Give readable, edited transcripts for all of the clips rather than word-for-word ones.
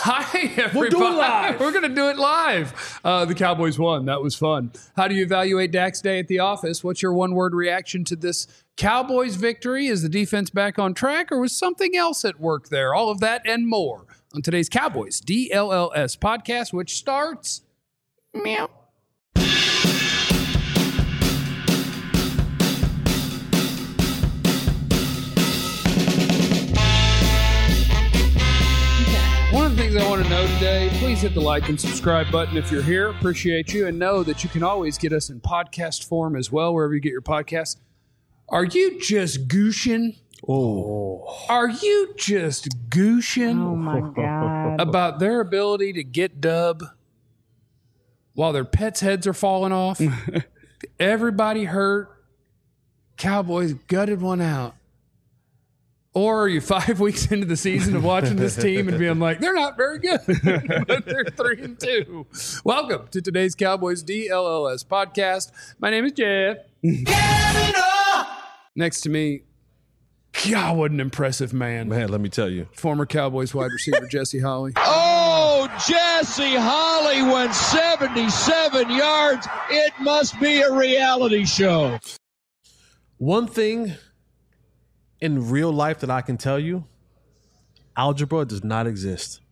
Hi, everybody. We'll do it live. We're going to do it live. The Cowboys won. That was fun. How do you evaluate Dak's day at the office? What's your one-word reaction to this Cowboys victory? Is the defense back on track, or was something else at work there? All of that and more on today's Cowboys DLLS podcast, which starts meow. One of the things I want to know today, please hit the like and subscribe button if you're here. Appreciate you. And know that you can always get us in podcast form as well, wherever you get your podcasts. Are you just gooshing? Oh. Are you just gooshing? Oh, my God. About their ability to get dub while their pets' heads are falling off? Everybody hurt. Cowboys gutted one out. Or are you 5 weeks into the season of watching this team and being like, they're not very good, but they're 3-2. Welcome to today's Cowboys DLLS podcast. My name is Jeff. Next to me, God, what an impressive man. Man, let me tell you. Former Cowboys wide receiver Jesse Holley. Oh, Jesse Holley went 77 yards. It must be a reality show. One thing in real life that I can tell you, algebra does not exist.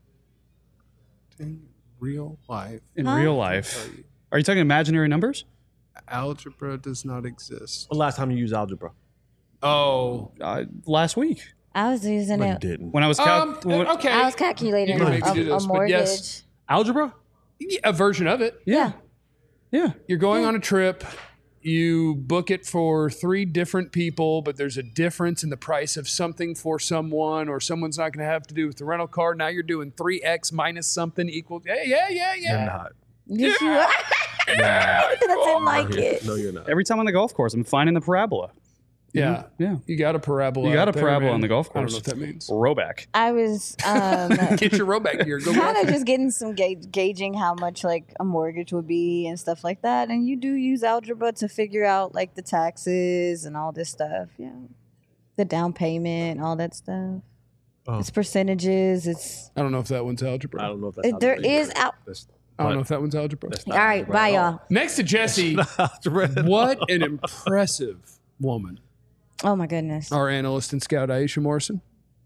In real life. In real life. Are you talking imaginary numbers? Algebra does not exist. The last time you used algebra? Oh. Last week. I was using No, you it. didn't. When I was Okay. I was calculating You can maybe do a this, but mortgage. yes. Algebra? Yeah, a version of it. Yeah. Yeah. You're going on a trip. You book it for 3 different people, but there's a difference in the price of something for someone, or someone's not going to have to do with the rental car. Now you're doing 3x minus something equals. Yeah. You're not. Yes, you are. I didn't like it. No, you're not. Every time on the golf course, I'm finding the parabola. Yeah. Yeah. You got a parabola. You got out a there, parabola man. on the golf I don't course. know what that means. Rowback. I was Get your row back here. Go kind of golfing. just getting some gauging how much like a mortgage would be and stuff like that. And you do use algebra to figure out like the taxes and all this stuff. Yeah. The down payment, all that stuff. Oh. It's percentages. It's I don't know if that one's algebra. I don't know if that's there algebra is either. out. I don't know if that one's algebra. That's All not right, algebra bye at all. y'all. Next to Jesse, Algebra at all. what an impressive woman. Oh my goodness. Our analyst and scout, Aisha Morrison.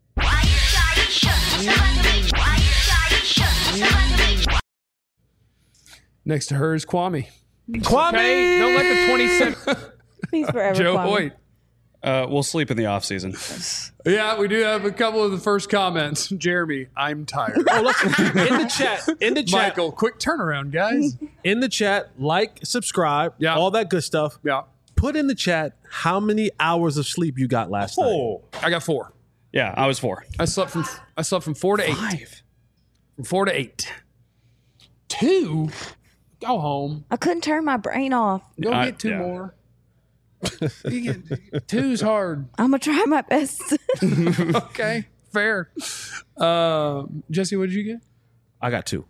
Next to her is Kwame. Kwame! Hey, don't let the 27 He's forever Joe Kwame. Hoyt. We'll sleep in the off season. Yeah, we do have a couple of the first comments. Jeremy, I'm tired. Oh, listen, in the chat, Michael, quick turnaround, guys. in the chat, like, subscribe, Yeah. all that good stuff. Yeah, Put in the chat how many hours of sleep you got last night. I got 4. Yeah, I was 4. I slept from 4 to 8. 5. From 4 to 8. 2. Go home. I couldn't turn my brain off. Go get 2 yeah. more. You get, 2's hard. I'm gonna try my best. Okay, fair. Jesse, what did you get? I got 2.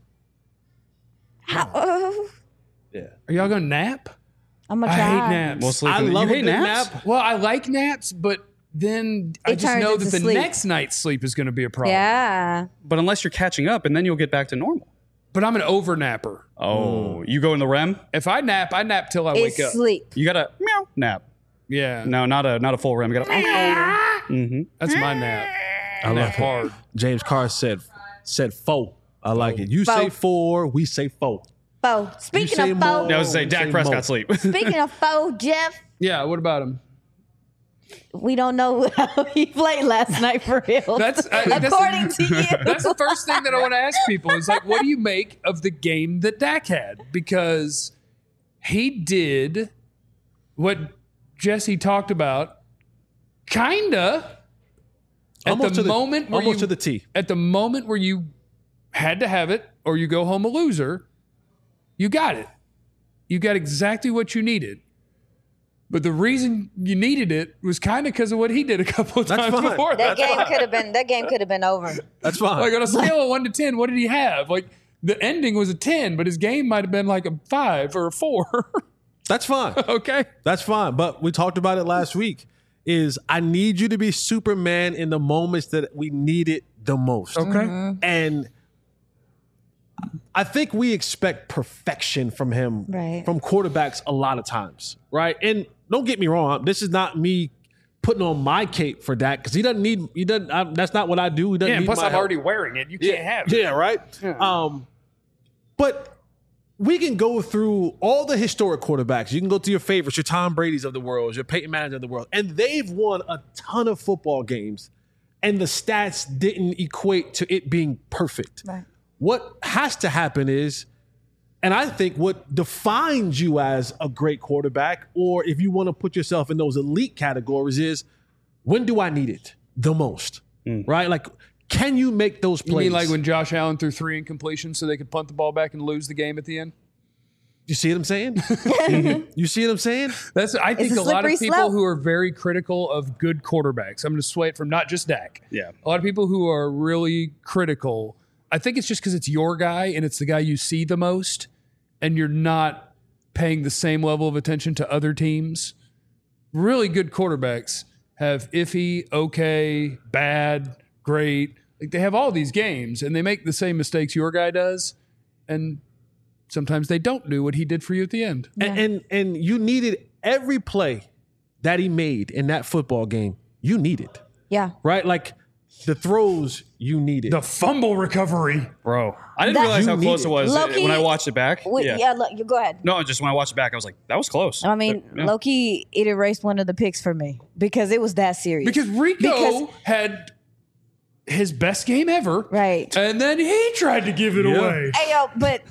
Oh, Yeah. Are y'all gonna nap? I'm gonna I try. hate naps. We'll sleep I in the love You a hate good naps? nap. Well, I like naps, but then I It just turns know into that the sleep. next night's sleep is going to be a problem. Yeah. But unless you're catching up, and then you'll get back to normal. But I'm an over napper. Oh, you go in the REM? If I nap till I It's wake up. sleep. You got to meow nap. Yeah, No, not a full REM. You got to. that's my nap. I love nap it. hard. James Carr said 4. I like it. You Four. say 4, we say 4. Bo. Speaking say of more. Bo, Yeah, I was going to say, Dak Say Prescott more. sleep. speaking of Bo, Jeff, Yeah, what about him? we don't know how he played last night for real. That's according to you. That's the first thing that I want to ask people is like, what do you make of the game that Dak had? Because he did what Jesse talked about, kinda. Almost to the T. At the moment where you had to have it or you go home a loser, you got it. You got exactly what you needed. But the reason you needed it was kind of because of what he did a couple of That's times fine. before That that. game could have been over. That's fine. Like on a scale of 1 to 10, what did he have? Like the ending was a 10, but his game might have been like a 5 or a 4. That's fine. Okay. That's fine. But we talked about it last week. Is I need you to be Superman in the moments that we need it the most. Okay. And I think we expect perfection from him, Right. from quarterbacks a lot of times, right? And don't get me wrong, this is not me putting on my cape for Dak because he doesn't need. That's not what I do. He doesn't Yeah, need plus my I'm help. already wearing it. You can't have it. Yeah, right. But we can go through all the historic quarterbacks. You can go to your favorites, your Tom Brady's of the world, your Peyton Manning's of the world, and they've won a ton of football games, and the stats didn't equate to it being perfect. Right. What has to happen is, and I think what defines you as a great quarterback, or if you want to put yourself in those elite categories, is when do I need it the most? Right? Like, can you make those You plays? mean like when Josh Allen threw 3 incompletions so they could punt the ball back and lose the game at the end? You see what I'm saying? You see what I'm saying? I think a a lot of slippery people slope. who are very critical of good quarterbacks, I'm going to sway it from not just Dak. Yeah. A lot of people who are really critical, I think it's just because it's your guy and it's the guy you see the most, and you're not paying the same level of attention to other teams. Really good quarterbacks have iffy, okay, bad, great. Like they have all these games and they make the same mistakes your guy does. And sometimes they don't do what he did for you at the end. And you needed every play that he made in that football game. You needed, Yeah. right? Like the throws you needed. The fumble recovery. Bro, I didn't That- realize how You close need it was Low-key- when I watched it back. Yeah, look, you go ahead. No, just when I watched it back, I was like, that was close. I mean, Yeah. low-key, it erased one of the picks for me because it was that serious. Because Rico Because- had his best game ever. Right. And then he tried to give it Yeah. away. Hey, yo, but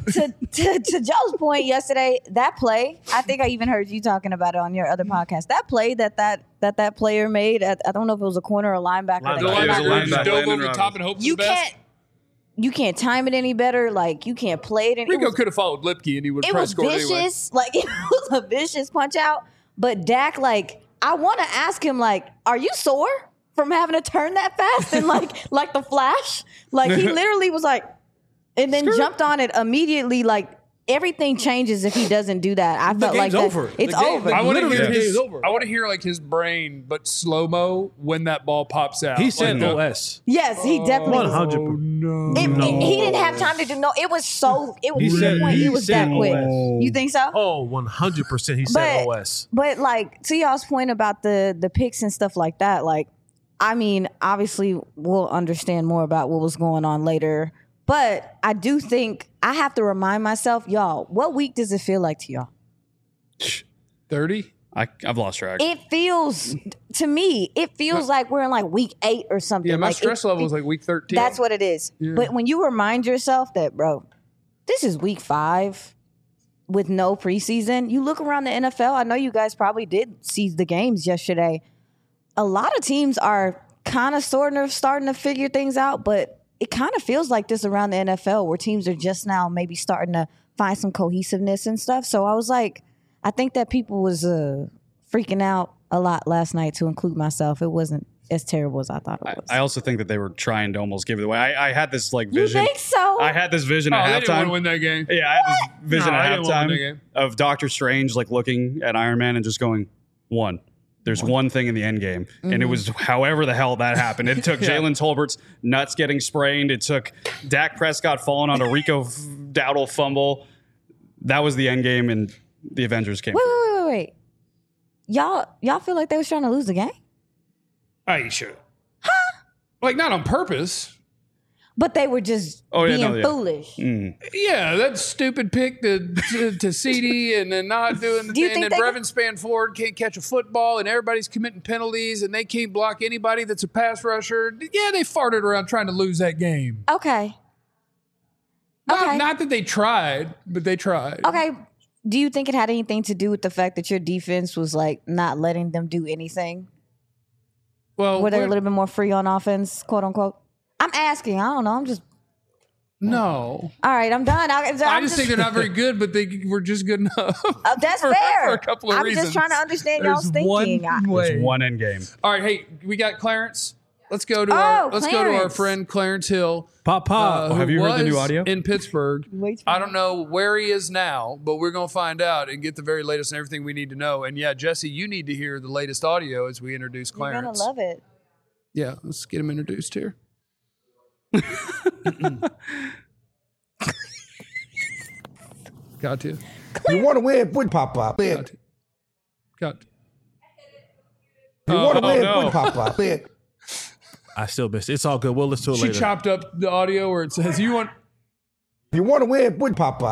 to Joe's point yesterday, that play, I think I even heard you talking about it on your other podcast. That play that player made, I don't know if it was a corner or linebacker. that The Linebacker. came was out- a linebacker just linebacker. dove over Landon the top and hoped for You the best. can't time it any better. Like, you can't play it. Rico could have followed Lipke and he would have It was probably scored anyway. vicious. Like, it was a vicious punch out. But Dak, like, I want to ask him, like, are you sore from having to turn that fast and like the Flash? Like, he literally was like, and then jumped on it immediately. Like, everything changes if he doesn't do that. I felt like game's that. over. It's The game- over. I want to Literally, hear the game's his. over. I want to hear like his brain, but slow mo when that ball pops out. He Like, said no. OS. Yes, he definitely. 100%. Oh no! He didn't have time to do no. It was so. It was He to the said- point. he It was said that quick. OS. You think so? Oh, 100% he said OS. But like to y'all's point about the picks and stuff like that, like I mean, obviously we'll understand more about what was going on later. But I do think I have to remind myself, y'all, what week does it feel like to y'all? 30. I've lost track. It feels to me, it feels like we're in like week 8 or something. Yeah, my like stress level is like week 13. That's what it is. But when you remind yourself that, bro, this is week 5 with no preseason, you look around the NFL. I know you guys probably did see the games yesterday. A lot of teams are kind of starting to figure things out, but it kind of feels like this around the NFL where teams are just now maybe starting to find some cohesiveness and stuff. So I was like, I think that people was freaking out a lot last night, to include myself. It wasn't as terrible as I thought it was. I also think that they were trying to almost give it away. I had this like You vision. think so? I had this vision Oh, at they didn't want halftime. to win that game. Yeah, I had this vision No, at they didn't wanna win that halftime game. of Doctor Strange like looking at Iron Man and just going, one. There's one thing in the end game. And it was however the hell that happened. It took Jalen Tolbert's nuts getting sprained. It took Dak Prescott falling on a Rico Dowdle fumble. That was the end game, and the Avengers came. Wait. Y'all feel like they was trying to lose the game? Oh, you should. Like not on purpose. But they were just Oh, yeah, being no, yeah. foolish. Yeah, that stupid pick to CD and then not doing the Do you thing. And think then they- Brevin Spanford can't catch a football and everybody's committing penalties and they can't block anybody that's a pass rusher. Yeah, they farted around trying to lose that game. Okay. Okay. Not that they tried, but they tried. Okay. Do you think it had anything to do with the fact that your defense was like not letting them do anything? Well, Were they a we're- little bit more free on offense, quote unquote? I'm asking. I don't know. I'm just no. all right. I'm done. I just think they're not very good, but they were just good enough. That's for, fair. For a couple of I'm reasons. just trying to understand There's y'all's thinking. One way. There's one end game. All right, hey, we got Clarence. Let's go to Oh, our Clarence. friend Clarence Hill. Papa. who have you heard the new was audio? in Pittsburgh? Wait for I don't know where he is now, but we're going to find out and get the very latest and everything we need to know. And yeah, Jesse, you need to hear the latest audio as we introduce You're Clarence. gonna love it. Yeah, let's get him introduced here. Got to. You want to win? Put pop. Got to. Got to. You want to win? no. Put pop. I still missed it. It's all good. We'll listen to it She later. chopped up the audio where it says, you want... You want to win? Put pop.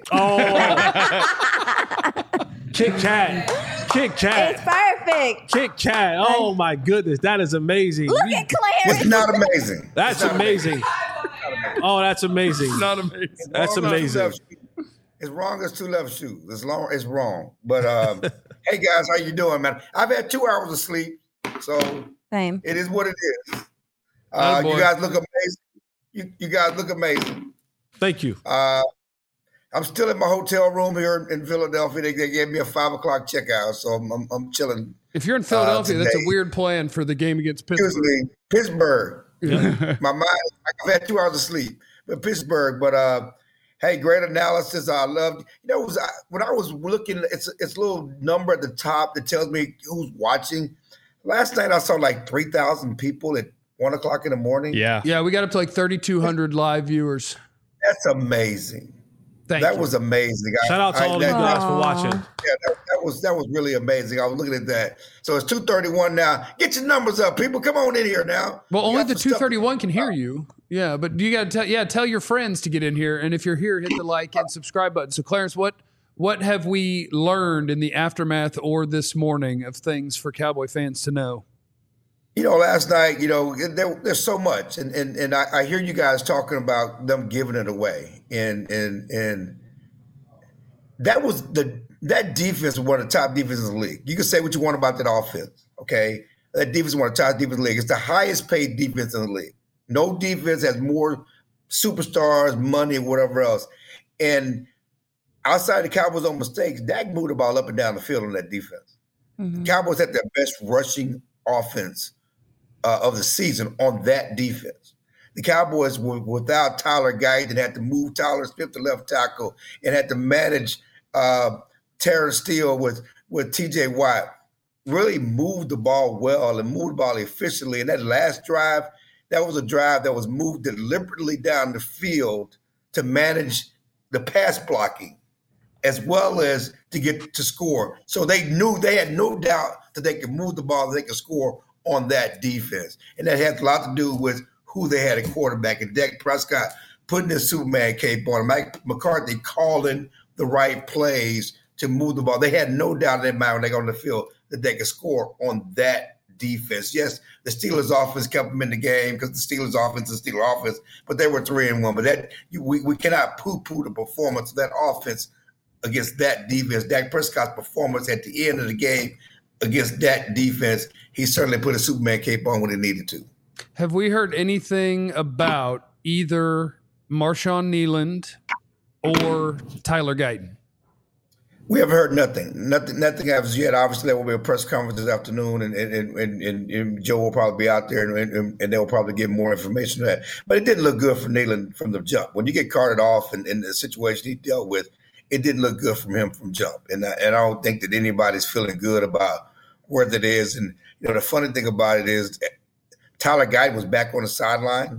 Kit Kat. Kit Kat. It's perfect. Kit Kat. Oh my goodness. That is amazing. Look at Clarence. It's not amazing. That's amazing. Oh, that's amazing. Not amazing. That's amazing. It's wrong as two left shoes. It's wrong. But hey guys, how you doing, man? I've had 2 hours of sleep, so Same. it is what it is. Attaboy. You guys look amazing. You guys look amazing. Thank you. I'm still in my hotel room here in Philadelphia. They gave me a 5 o'clock checkout, so I'm chilling. If you're in Philadelphia, that's a today. weird plan for the game against Pittsburgh. Excuse me, Pittsburgh. My mind. I've had 2 hours of sleep, but Pittsburgh. But hey, great analysis. I loved. When I was looking, it's a little number at the top that tells me who's watching. Last night I saw like 3,000 people at 1 o'clock in the morning. Yeah. Yeah, we got up to like 3,200 live viewers. That's amazing. That was amazing. Shout out to all you guys for watching. Yeah, that was really amazing. I was looking at that. So it's 2:31 now. Get your numbers up, people. Come on in here now. Well, We only got the some stuff 231 can hear you. Yeah, but you got to tell your friends to get in here. And if you're here, hit the like and subscribe button. So, Clarence, what have we learned in the aftermath or this morning of things for Cowboy fans to know? Last night, there's so much, and I hear you guys talking about them giving it away, and that defense was one of the top defenses in the league. You can say what you want about that offense, okay? That defense is one of the top defenses in the league. It's the highest paid defense in the league. No defense has more superstars, money, whatever else. And outside the Cowboys' own mistakes, Dak moved the ball up and down the field on that defense. Mm-hmm. The Cowboys had their best rushing offense of the season on that defense. The Cowboys were without Tyler Guyton, had to move Tyler Smith to left tackle and had to manage Terrence Steele with T.J. Watt. Really moved the ball well and moved the ball efficiently. And that last drive, that was a drive that was moved deliberately down the field to manage the pass blocking as well as to get to score. So they had no doubt that they could move the ball, that they could score on that defense. And that has a lot to do with who they had at quarterback. And Dak Prescott putting his Superman cape on. Mike McCarthy calling the right plays to move the ball. They had no doubt in their mind when they got on the field that they could score on that defense. Yes, the Steelers offense kept them in the game because the Steelers offense is Steelers offense, but they were 3-1. But we cannot poo-poo the performance of that offense against that defense. Dak Prescott's performance at the end of the game against that defense, he certainly put a Superman cape on when he needed to. Have we heard anything about either Marshawn Kneeland or Tyler Guyton? We have heard nothing. Nothing as yet. Obviously, there will be a press conference this afternoon, and Joe will probably be out there, and they'll probably give more information to that. But it didn't look good for Kneeland from the jump. When you get carted off in the situation he dealt with, it didn't look good from him from jump. And I don't think that anybody's feeling good about where that is. And the funny thing about it is Tyler Guyton was back on the sideline.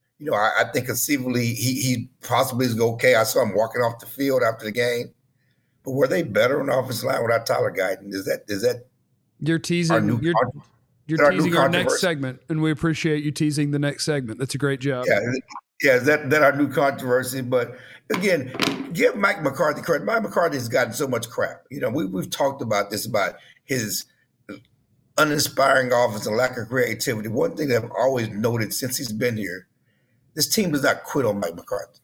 I think conceivably he possibly is okay. I saw him walking off the field after the game. But were they better on the offensive line without Tyler Guyton? Is that You're teasing. You're teasing our next segment, and we appreciate you teasing the next segment. That's a great job. Yeah. Is that our new controversy? But again, give Mike McCarthy credit. Mike McCarthy has gotten so much crap. We've talked about this, about his uninspiring offense and lack of creativity. One thing that I've always noted since he's been here, this team does not quit on Mike McCarthy.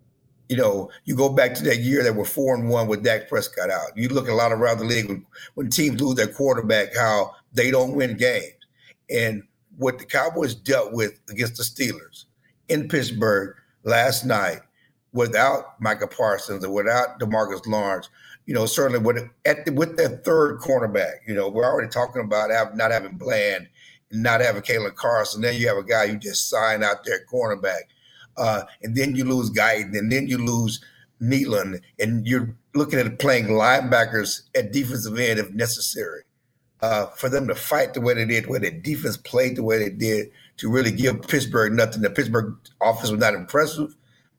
You go back to that year that were 4-1 with Dak Prescott out. You look at a lot around the league when teams lose their quarterback, how they don't win games. And what the Cowboys dealt with against the Steelers in Pittsburgh last night without Micah Parsons or without DeMarcus Lawrence, certainly with their third cornerback, we're already talking about not having Bland and not having Kalen Carson. Then you have a guy you just signed out there at cornerback. And then you lose Guyton, and then you lose Kneeland, and you're looking at playing linebackers at defensive end if necessary. For them to fight the way they did, where their defense played the way they did, to really give Pittsburgh nothing. The Pittsburgh offense was not impressive,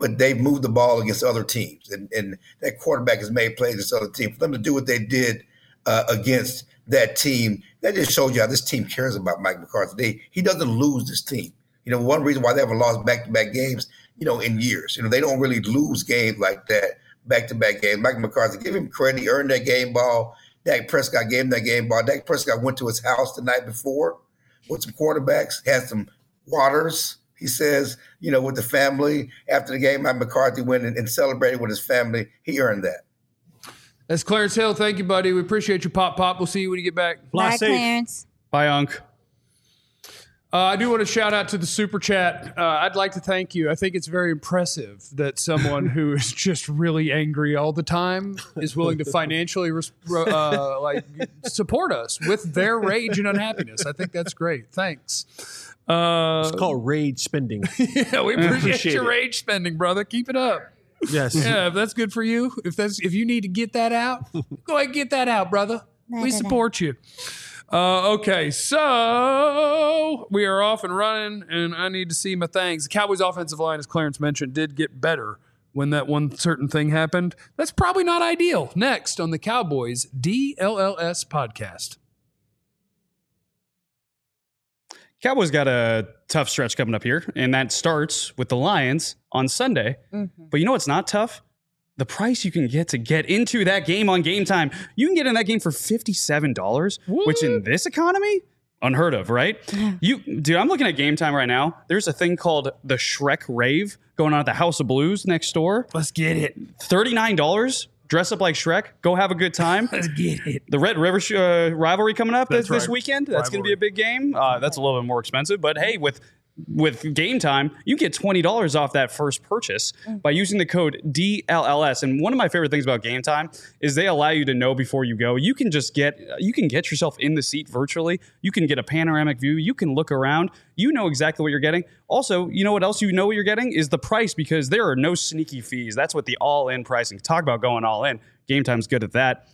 but they've moved the ball against other teams, and that quarterback has made plays against other teams. For them to do what they did against that team, that just shows you how this team cares about Mike McCarthy. He doesn't lose this team. One reason why they haven't lost back-to-back games, in years. They don't really lose games like that, back-to-back games. Mike McCarthy, give him credit. He earned that game ball. Dak Prescott gave him that game ball. Dak Prescott went to his house the night before with some quarterbacks, had some waters, he says, with the family. After the game, Mike McCarthy went and celebrated with his family. He earned that. That's Clarence Hill. Thank you, buddy. We appreciate you, Pop. We'll see you when you get back. Bye, Clarence. Bye, Unc. I do want to shout out to the Super Chat. I'd like to thank you. I think it's very impressive that someone who is just really angry all the time is willing to financially support us with their rage and unhappiness. I think that's great. Thanks. It's called rage spending. Yeah, we appreciate your it. rage spending, brother. Keep it up. Yes. Yeah, if that's good for you, if you need to get that out, go ahead and get that out, brother. We support you. Okay, so we are off and running, and I need to see my things. The Cowboys' offensive line, as Clarence mentioned, did get better when that one certain thing happened. That's probably not ideal. Next on the Cowboys DLLS podcast. Cowboys got a tough stretch coming up here, and that starts with the Lions on Sunday. Mm-hmm. But you know what's not tough? The price you can get to get into that game on Game Time. You can get in that game for $57, which in this economy, unheard of, right? Dude, I'm looking at Game Time right now. There's a thing called the Shrek Rave going on at the House of Blues next door. Let's get it. $39. Dress up like Shrek. Go have a good time. Let's get it. The Red River rivalry coming up this right. weekend. That's going to be a big game. That's a little bit more expensive. But hey, with Game Time, you get $20 off that first purchase by using the code DLLS. And one of my favorite things about Game Time is they allow you to know before you go. You can get yourself in the seat virtually. You can get a panoramic view. You can look around. You know exactly what you're getting. Also, you know what else you know what you're getting is the price, because there are no sneaky fees. That's what the all-in pricing. Talk about going all in. Game Time's good at that.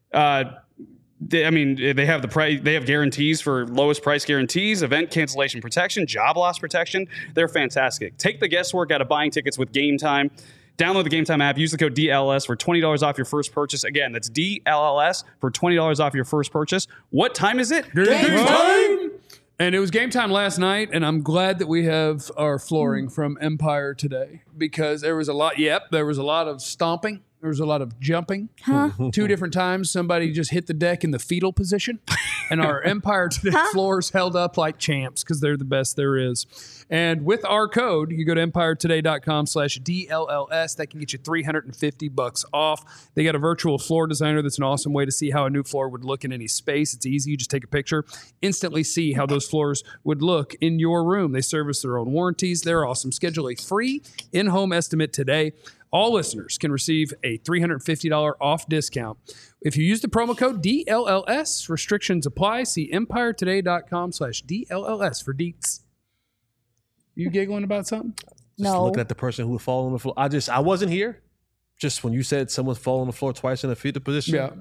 They have the price. They have guarantees for lowest price guarantees, event cancellation protection, job loss protection. They're fantastic. Take the guesswork out of buying tickets with Game Time. Download the Game Time app. Use the code DLS for $20 off your first purchase. Again, that's DLLS for $20 off your first purchase. What time is it? Game time! And it was Game Time last night, and I'm glad that we have our flooring from Empire today, because there was a lot. Yep, there was a lot of stomping. There was a lot of jumping. 2 different times, somebody just hit the deck in the fetal position. And our Empire Today floors held up like champs, because they're the best there is. And with our code, you go to empiretoday.com/DLLS. That can get you $350 off. They got a virtual floor designer. That's an awesome way to see how a new floor would look in any space. It's easy. You just take a picture, instantly see how those floors would look in your room. They service their own warranties. They're awesome. Schedule a free in-home estimate today. All listeners can receive a $350 off discount if you use the promo code DLLS. Restrictions apply. See empiretoday.com/DLLS for deets. You giggling about something? Just looking at the person who would fall on the floor. I wasn't here. Just when you said someone's fallen on the floor twice in a fetal position. Yeah.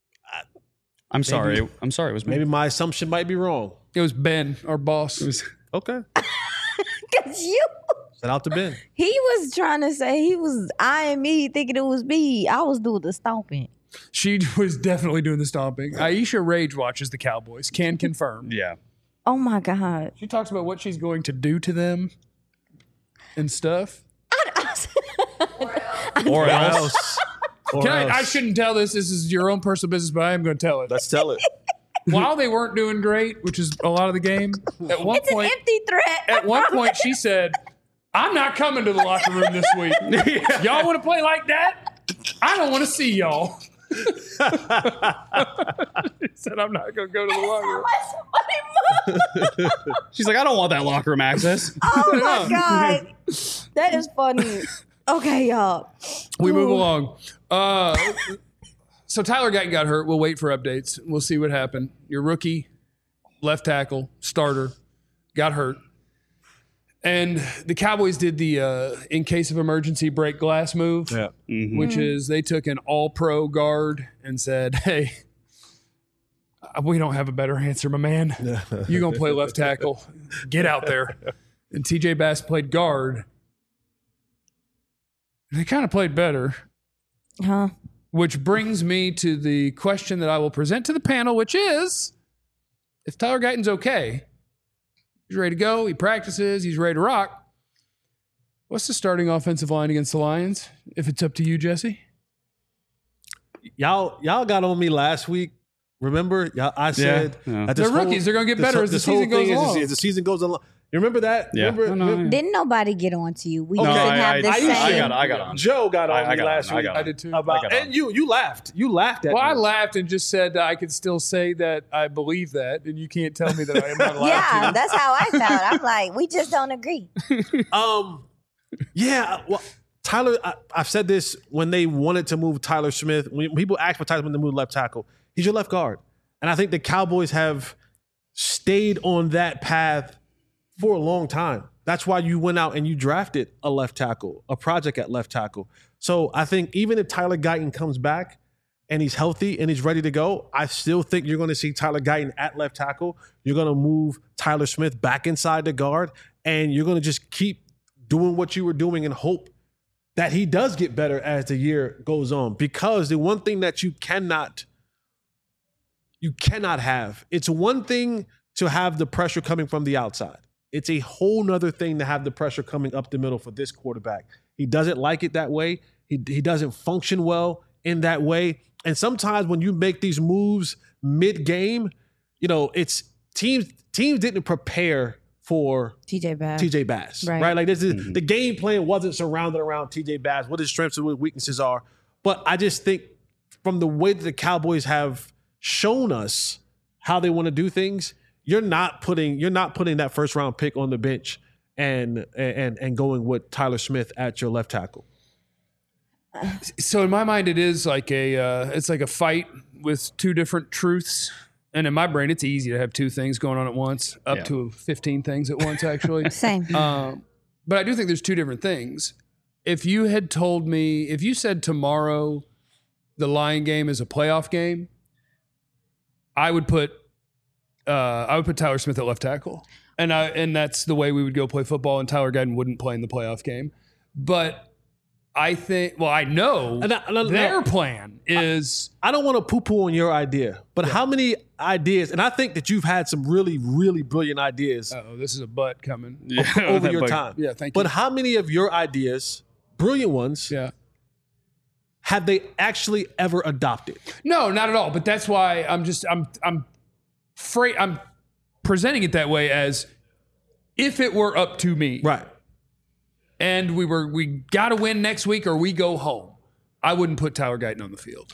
I'm sorry. It was me. Maybe my assumption might be wrong. It was Ben, our boss. Okay. Because you... Shout out to Ben. He was trying to say he was eyeing me, thinking it was me. I was doing the stomping. She was definitely doing the stomping. Aisha rage watches the Cowboys. Can confirm. Yeah. Oh my God. She talks about what she's going to do to them and stuff. Or else. I shouldn't tell this. This is your own personal business, but I am going to tell it. Let's tell it. While they weren't doing great, which is a lot of the game, at one It's point, an empty threat. At one point, she said, "I'm not coming to the locker room this week. Y'all want to play like that? I don't want to see y'all." She said, "I'm not going to go to the locker room." She's like, I don't want that locker room access. Oh my God. That is funny. Okay, y'all. We move along. So Tyler Guyton got hurt. We'll wait for updates. We'll see what happened. Your rookie, left tackle, starter, got hurt. And the Cowboys did the in case of emergency break glass move, which is they took an all-pro guard and said, "Hey, we don't have a better answer, my man. You're going to play left tackle. Get out there." And TJ Bass played guard. They kind of played better. Huh? Which brings me to the question that I will present to the panel, which is, if Tyler Guyton's okay, he's ready to go, he practices, he's ready to rock, what's the starting offensive line against the Lions, if it's up to you, Jesse? Y'all got on me last week. Remember? I said that They're rookies. They're going to get better as the season goes along. As the season goes along. You remember that? Yeah. Remember? Didn't nobody get on to you? We Okay. didn't have the same. I got on. Joe got on I me got last on. week. I did too. And you laughed. You laughed at Well, me. I laughed and just said that I could still say that I believe that, and you can't tell me that I am not allowed Yeah, to. that's how I felt. I'm like, we just don't agree. Yeah. Well, Tyler, I've said this when they wanted to move Tyler Smith. When people ask for Tyler Smith to move left tackle, he's your left guard. And I think the Cowboys have stayed on that path for a long time. That's why you went out and you drafted a left tackle, a project at left tackle. So I think even if Tyler Guyton comes back and he's healthy and he's ready to go, I still think you're going to see Tyler Guyton at left tackle. You're going to move Tyler Smith back inside the guard, and you're going to just keep doing what you were doing and hope that he does get better as the year goes on. Because the one thing that you cannot have, it's one thing to have the pressure coming from the outside. It's a whole nother thing to have the pressure coming up the middle for this quarterback. He doesn't like it that way. He doesn't function well in that way. And sometimes when you make these moves mid-game, it's teams didn't prepare for TJ Bass. Right? Like this is the game plan wasn't surrounded around TJ Bass, what his strengths and what his weaknesses are. But I just think from the way that the Cowboys have shown us how they want to do things, you're not putting that first round pick on the bench and going with Tyler Smith at your left tackle. So in my mind, it is like it's like a fight with two different truths. And in my brain, it's easy to have two things going on at once, up to 15 things at once, actually. Same. But I do think there's two different things. If you had told me, if you said tomorrow the Lion game is a playoff game, I would put Tyler Smith at left tackle. And that's the way we would go play football, and Tyler Guyton wouldn't play in the playoff game. But I think, well, I know their plan is... I don't want to poo-poo on your idea, but how many ideas, and I think that you've had some really, really brilliant ideas Oh, this is a butt coming. over your time. Yeah, thank you. But how many of your ideas, brilliant ones, have they actually ever adopted? No, not at all. But that's why I'm presenting it that way, as if it were up to me. Right. And we got to win next week or we go home, I wouldn't put Tyler Guyton on the field.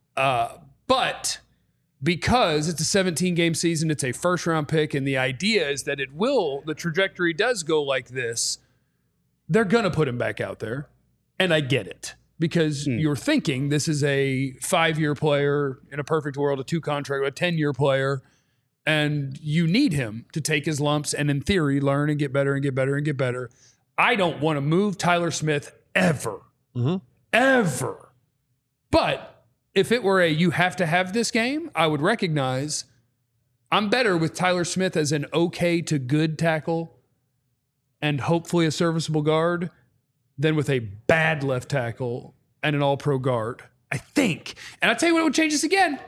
But because it's a 17-game season, it's a first-round pick, and the idea is that the trajectory does go like this, they're going to put him back out there. And I get it, because you're thinking this is a 5-year player in a perfect world, a 2-contract, a 10-year player, and you need him to take his lumps and, in theory, learn and get better and get better and get better. I don't want to move Tyler Smith ever. Ever. But if it were you have to have this game, I would recognize I'm better with Tyler Smith as an okay to good tackle and hopefully a serviceable guard than with a bad left tackle and an all-pro guard, I think. And I'll tell you what would change this again.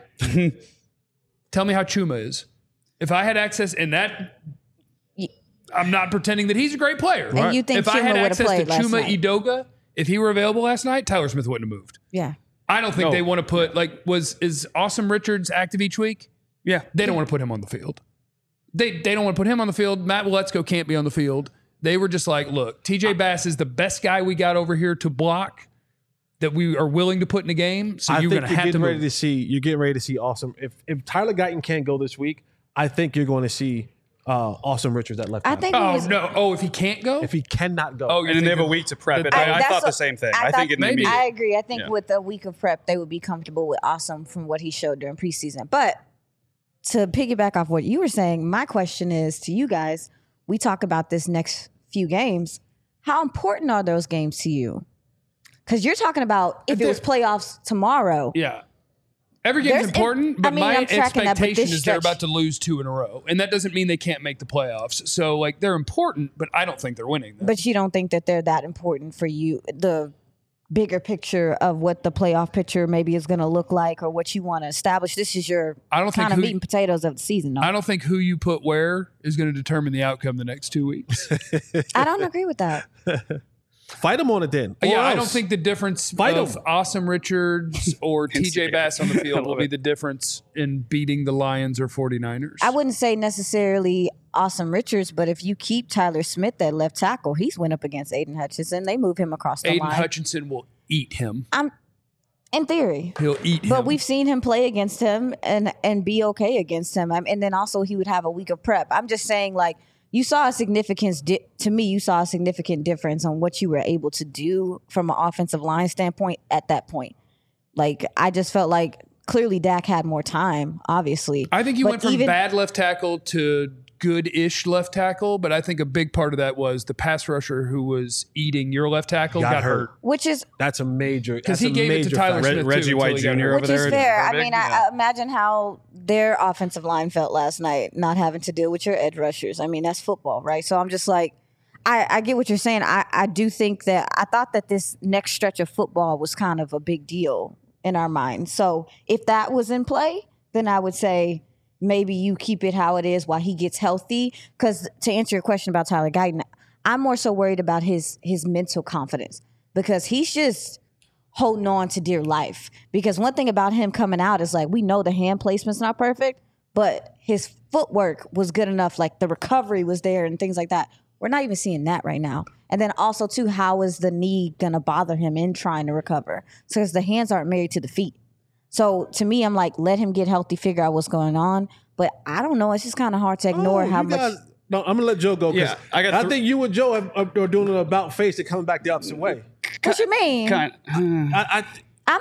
Tell me how Chuma is. If I had access in that... I'm not pretending that he's a great player. And you think if I had Chuma would have access to played last Chuma night? Edoga, if he were available last night, Tyler Smith wouldn't have moved. Yeah. I don't think they want to put is Awesome Richards active each week? Yeah. They don't want to put him on the field. They don't want to put him on the field. Matt Waletzko can't be on the field. They were just like, look, TJ Bass is the best guy we got over here to block that we are willing to put in a game. So you're going to have to move. You're getting ready to see Awesome. If Tyler Guyton can't go this week, I think you're going to see Awesome Richards at left I tackle. think if he can't go? If he cannot go. Oh, And then they have a week to prep it. I thought the same thing. I think it may be. I agree. I think with a week of prep, they would be comfortable with Awesome from what he showed during preseason. But to piggyback off what you were saying, my question is to you guys, we talk about this next few games. How important are those games to you? Because you're talking about if it was playoffs tomorrow. Yeah. Every game's important, but my expectation is they're about to lose 2 in a row. And that doesn't mean they can't make the playoffs. So, they're important, but I don't think they're winning them. But you don't think that they're that important for you, the bigger picture of what the playoff picture maybe is going to look like or what you want to establish. This is your kind of meat and potatoes of the season. No? I don't think who you put where is going to determine the outcome the next 2 weeks. I don't agree with that. Fight them on it then. Yeah, I don't think the difference of Awesome Richards or TJ Bass on the field will be the difference in beating the Lions or 49ers. I wouldn't say necessarily Awesome Richards, but if you keep Tyler Smith at left tackle, he's went up against Aiden Hutchinson. They move him across the line. Aiden Hutchinson will eat him. In theory. He'll eat him. But we've seen him play against him and be okay against him. And then also he would have a week of prep. I'm just saying, like, you saw a significance, to me, you saw a significant difference on what you were able to do from an offensive line standpoint at that point. Like, I just felt like clearly Dak had more time, obviously. I think went from bad left tackle to good-ish left tackle, but I think a big part of that was the pass rusher who was eating your left tackle got hurt. That's a major, because he gave it to Tyler Smith Reggie White Jr. over which there. Which is fair. I mean, I imagine how their offensive line felt last night, not having to deal with your edge rushers. I mean, that's football, right? So I'm just like, I get what you're saying. I do think that I thought that this next stretch of football was kind of a big deal in our minds. So if that was in play, then I would say maybe you keep it how it is while he gets healthy. Because to answer your question about Tyler Guyton, I'm more so worried about his mental confidence, because he's just holding on to dear life. Because one thing about him coming out is, like, we know the hand placement's not perfect, but his footwork was good enough. Like, the recovery was there and things like that. We're not even seeing that right now. And then also, too, how is the knee going to bother him in trying to recover? Because the hands aren't married to the feet. So to me, I'm like, let him get healthy, figure out what's going on. But I don't know. It's just kind of hard to ignore how much. No, I'm gonna let Joe go. Yeah, I think you and Joe are doing an about face that coming back the opposite way. What you mean? I'm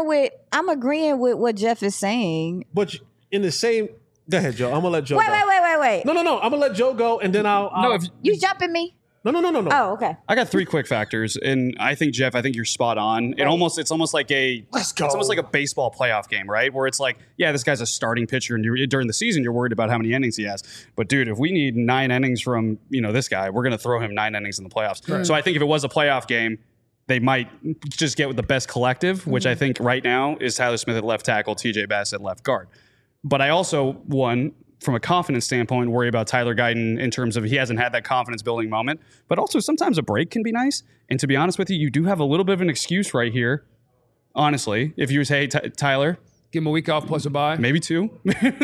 agreeing with what Jeff is saying. But in the same, go ahead, Joe. I'm gonna let Joe. Wait. No. I'm gonna let Joe go, and then I'll you jumping me? No. Oh, okay. I got 3 quick factors, and I think, Jeff, you're spot on. It's almost like it's almost like a baseball playoff game, right? Where it's like, yeah, this guy's a starting pitcher, and during the season, you're worried about how many innings he has. But dude, if we need 9 innings from this guy, we're gonna throw him 9 innings in the playoffs. Right. So I think if it was a playoff game, they might just get with the best collective, which I think right now is Tyler Smith at left tackle, TJ Bass at left guard. But I also from a confidence standpoint, worry about Tyler Guyton in terms of he hasn't had that confidence building moment. But also sometimes a break can be nice. And to be honest with you do have a little bit of an excuse right here. Honestly, if you say, hey, Tyler, give him a week off plus a bye. Maybe 2.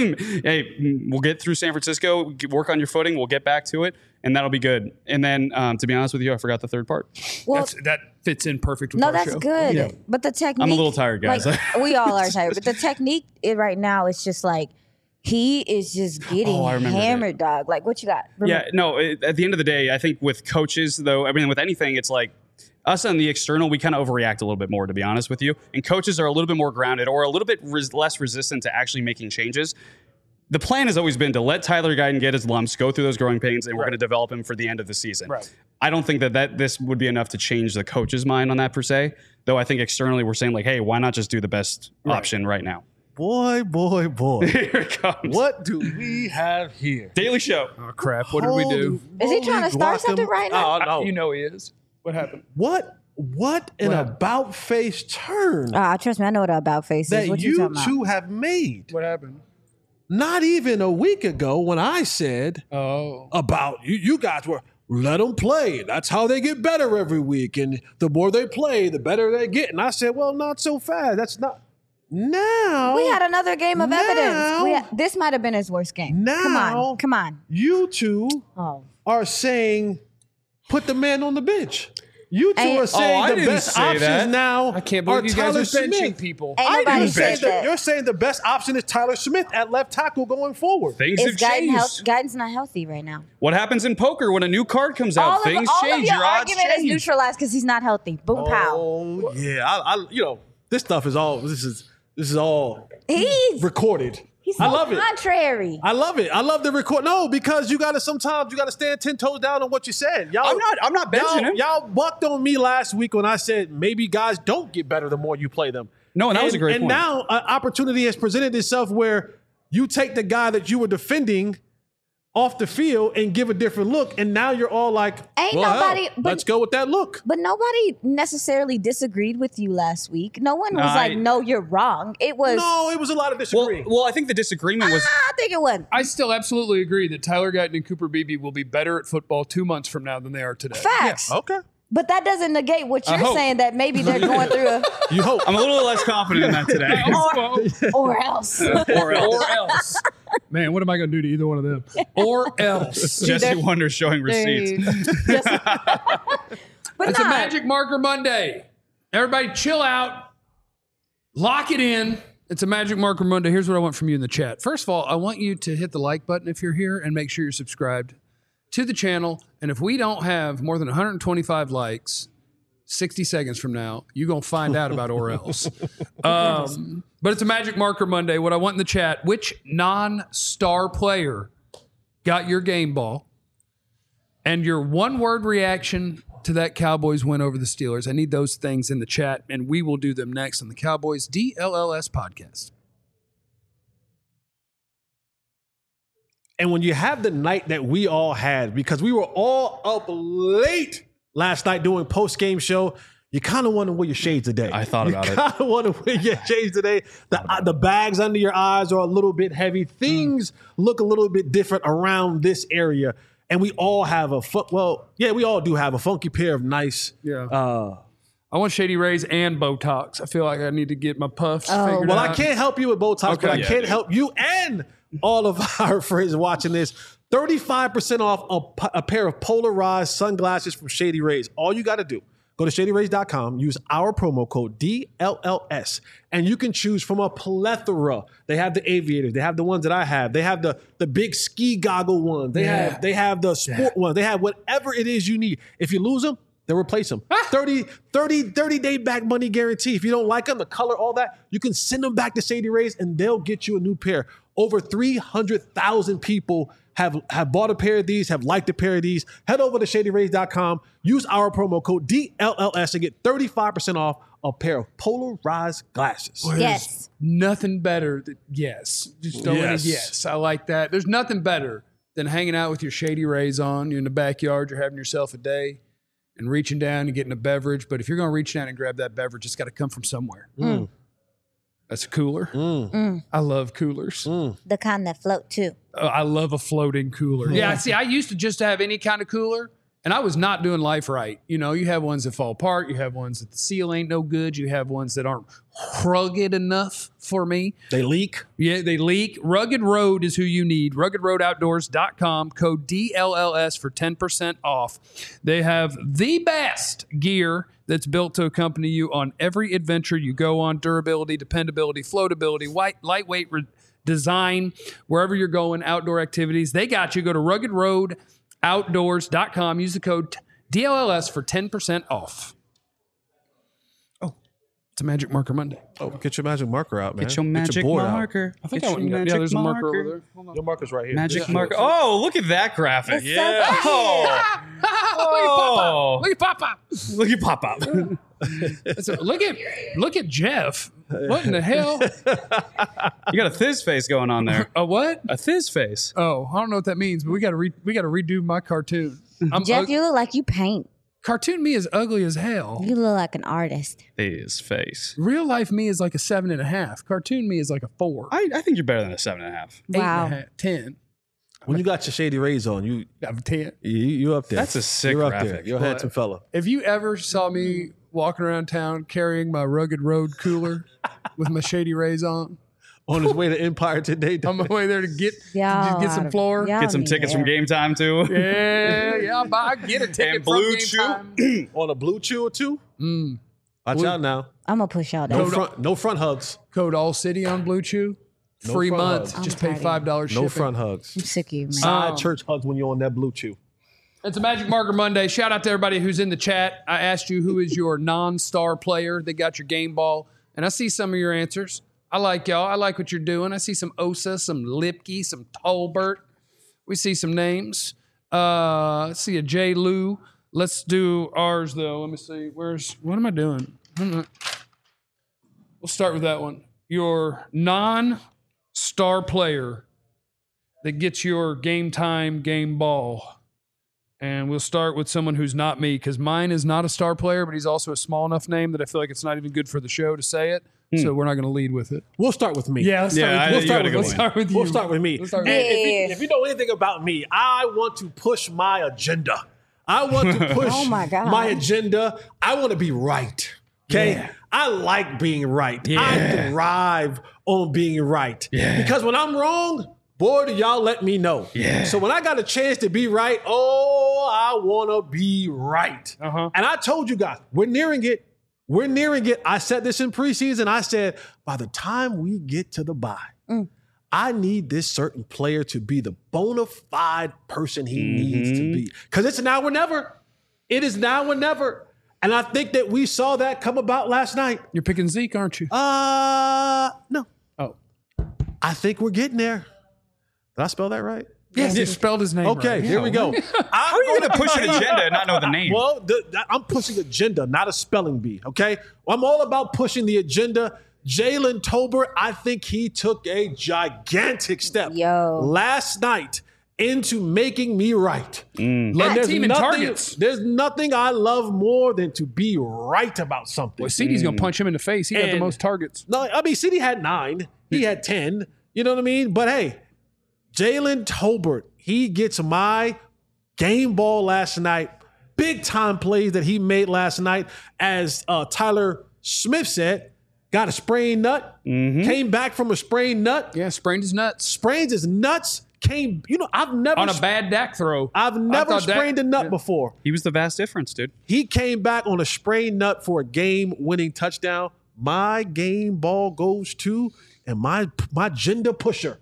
Hey, we'll get through San Francisco, work on your footing, we'll get back to it, and that'll be good. And then, to be honest with you, I forgot the third part. Well, that fits in perfect with our that's show. good. Yeah. But the technique... I'm a little tired, guys. Like, we all are tired. But the technique right now is just like, he is just getting hammered, dog. Like, what you got? Yeah, no, at the end of the day, I think with coaches, though, with anything, it's like us on the external, we kind of overreact a little bit more, to be honest with you. And coaches are a little bit more grounded or a little bit less resistant to actually making changes. The plan has always been to let Tyler Guyton get his lumps, go through those growing pains, and we're going to develop him for the end of the season. Right. I don't think that this would be enough to change the coach's mind on that per se, though I think externally we're saying, like, hey, why not just do the best option right now? Boy. Here it comes. What do we have here? Daily Show. Oh, crap. What did we do? Is he trying to start something right now? Oh, no. You know he is. What happened? What an about face turn trust me, I know what an about face is. that What you talking two about? have made. What happened? Not even a week ago when I said about you guys were, let them play. That's how they get better every week. And the more they play, the better they get. And I said, well, not so fast. That's not. Now we had another game of evidence. This might have been his worst game. Now, come on. You two are saying, put the man on the bench. You two are saying the best options now. I can't believe you guys are benching Smith. people. Ain't nobody said that. You're saying the best option is Tyler Smith at left tackle going forward. Things have changed. Guyton's not healthy right now. What happens in poker when a new card comes out? Things change. Your argument is neutralized because he's not healthy. Boom, pow. Oh yeah, I this stuff is all. This is all recorded. He's so contrary. I love it. I love the record. No, because sometimes you gotta stand 10 toes down on what you said. I'm not benching him. Y'all bucked on me last week when I said maybe guys don't get better the more you play them. No, and that was a great point. And now an opportunity has presented itself where you take the guy that you were defending off the field and give a different look. And now you're all like, Ain't well, nobody- hell, but- let's go with that look. But nobody necessarily disagreed with you last week. No one was like, no, you're wrong. It was, No, it was a lot of Well, disagreeing. well, I think the disagreement was I think it was. I still absolutely agree that Tyler Guyton and Cooper Beebe will be better at football 2 months from now than they are today. Facts. Okay. But that doesn't negate what you're hope. saying, that maybe they're going through a, You hope. I'm a little less confident in that today. or else. or else. Or else. Man, what am I going to do to either one of them? Or else. Jesse Wonder showing receipts. But It's a nah, Magic Marker Monday. Everybody chill out. Lock it in. It's a Magic Marker Monday. Here's what I want from you in the chat. First of all, I want you to hit the like button if you're here and make sure you're subscribed to the channel. And if we don't have more than 125 likes 60 seconds from now, you're going to find out about or else. But it's a Magic Marker Monday. What I want in the chat, which non-star player got your game ball and your one-word reaction to that Cowboys win over the Steelers? I need those things in the chat, and we will do them next on the Cowboys DLLS podcast. And when you have the night that we all had, because we were all up late last night doing post-game show, you kind of want to wear your shades today. I thought about it. You kind of want to wear your shades today. The bags under your eyes are a little bit heavy. Things look a little bit different around this area. And we all have we all do have a funky pair of nice. I want Shady Rays and Botox. I feel like I need to get my puffs figured Well, out. I can't help you with Botox, but I Yeah, can help you and all of our friends watching this. 35% off a pair of polarized sunglasses from Shady Rays. All you got to do, go to shadyrays.com, use our promo code DLLS, and you can choose from a plethora. They have the aviators. They have the ones that I have. They have the big ski goggle ones. They have the sport ones. They have whatever it is you need. If you lose them, they'll replace them. 30 day back money guarantee. If you don't like them, the color, all that, you can send them back to Shady Rays and they'll get you a new pair. Over 300,000 people have bought a pair of these, have liked a pair of these. Head over to shadyrays.com, use our promo code DLLS and get 35% off a pair of polarized glasses. yes. Nothing better than yes. Just throw in a Yes. yes. I like that. There's nothing better than hanging out with your Shady Rays on. You're in the backyard. You're having yourself a day and reaching down and getting a beverage. But if you're going to reach down and grab that beverage, it's got to come from somewhere. That's a cooler. I love coolers. The kind that float too. I love a floating cooler. Yeah, see, I used to just have any kind of cooler, and I was not doing life right. You know, you have ones that fall apart. You have ones that the seal ain't no good. You have ones that aren't rugged enough for me. They leak. Yeah, they leak. Rugged Road is who you need. RuggedRoadOutdoors.com. Code DLLS for 10% off. They have the best gear that's built to accompany you on every adventure you go on. Durability, dependability, floatability, lightweight design, wherever you're going, outdoor activities. They got you. Go to RuggedRoadOutdoors.com. Use the code DLLS for 10% off. It's a Magic Marker Monday. Oh, get your magic marker out, man. Get your magic board out. marker. I think Get I went your and got, yeah, there's a marker over there. Hold on. Your marker's right here. Magic Yeah. marker. Oh, look at that graphic. It's so good. Oh, Look at Pop Pop. look at pop up. Look at Jeff. What in the hell? You got a thiz face going on there. A what? A thiz face. Oh, I don't know what that means, but we got to redo my cartoon. Jeff, you look like you paint. Cartoon me is ugly as hell. You look like an artist. Thiz face. Real life me is like a 7.5. Cartoon me is like a 4. I think you're better than a 7.5. Wow. 8.5, 10. When you got your Shady Rays on, you I'm 10. you up there. That's a sick You're up graphic. there. You're a handsome fella. If you ever saw me walking around town carrying my Rugged Road cooler with my Shady Rays on, On his way to Empire today. on my way there to get Y'all get some oughta- floor. y'all Get some need tickets to- from Game Time too. Yeah, I get a ticket And from Blue Game Chew. Time. On a blue chew or two. Watch out now. I'm gonna push y'all No down. no front hugs. Code All City on Blue Chew. No Free front month. hugs. Just I'm pay tired $5 shipping. No front hugs. I'm sick of you, man. Side church hugs when you're on that blue chew. It's a Magic Marker Monday. Shout out to everybody who's in the chat. I asked you who is your non-star player that got your game ball, and I see some of your answers. I like y'all. I like what you're doing. I see some Osa, some Lipke, some Tolbert. We see some names. I see a J. Lou. Let's do ours, though. Let me see. What am I doing? We'll start with that one. Your non-star player that gets your game time, game ball. And we'll start with someone who's not me, because mine is not a star player, but he's also a small enough name that I feel like it's not even good for the show to say it. So we're not going to lead with it. We'll start with me. Let's start with you. We'll start with me. We'll start And with if you know anything about me, I want to push my agenda. I want to push Oh my God. my agenda. I want to be right. Okay? Yeah. I like being right. Yeah. I thrive on being right. Yeah. Because when I'm wrong, boy, do y'all let me know. Yeah. So when I got a chance to be right, I want to be right. Uh-huh. And I told you guys, we're nearing it. We're nearing it. I said this in preseason. I said, by the time we get to the bye, I need this certain player to be the bona fide person he needs to be. Because it's now or never. It is now or never. And I think that we saw that come about last night. You're picking Zeke, aren't you? No. Oh. I think we're getting there. Did I spell that right? Yes, you spelled his name Okay, right. here we go. How are you going to push an agenda and not know the name? Well, I'm pushing agenda, not a spelling bee, okay? I'm all about pushing the agenda. Jalen Tolbert, I think he took a gigantic step last night into making me right. Led there's team in targets. There's nothing I love more than to be right about something. Well, CeeDee's going to punch him in the face. He got the And- most targets. No, I mean, CD had 9. He had 10. You know what I mean? But hey, Jalen Tolbert, he gets my game ball last night. Big time plays that he made last night. As Tyler Smith said, got a sprained nut, came back from a sprained nut, Yeah, sprained his nuts. sprains his nuts, I've never On a bad Dak throw. I've never thought Dak- sprained a nut before. He was the vast difference, dude. He came back on a sprained nut for a game-winning touchdown. My game ball goes to, and my agenda pusher.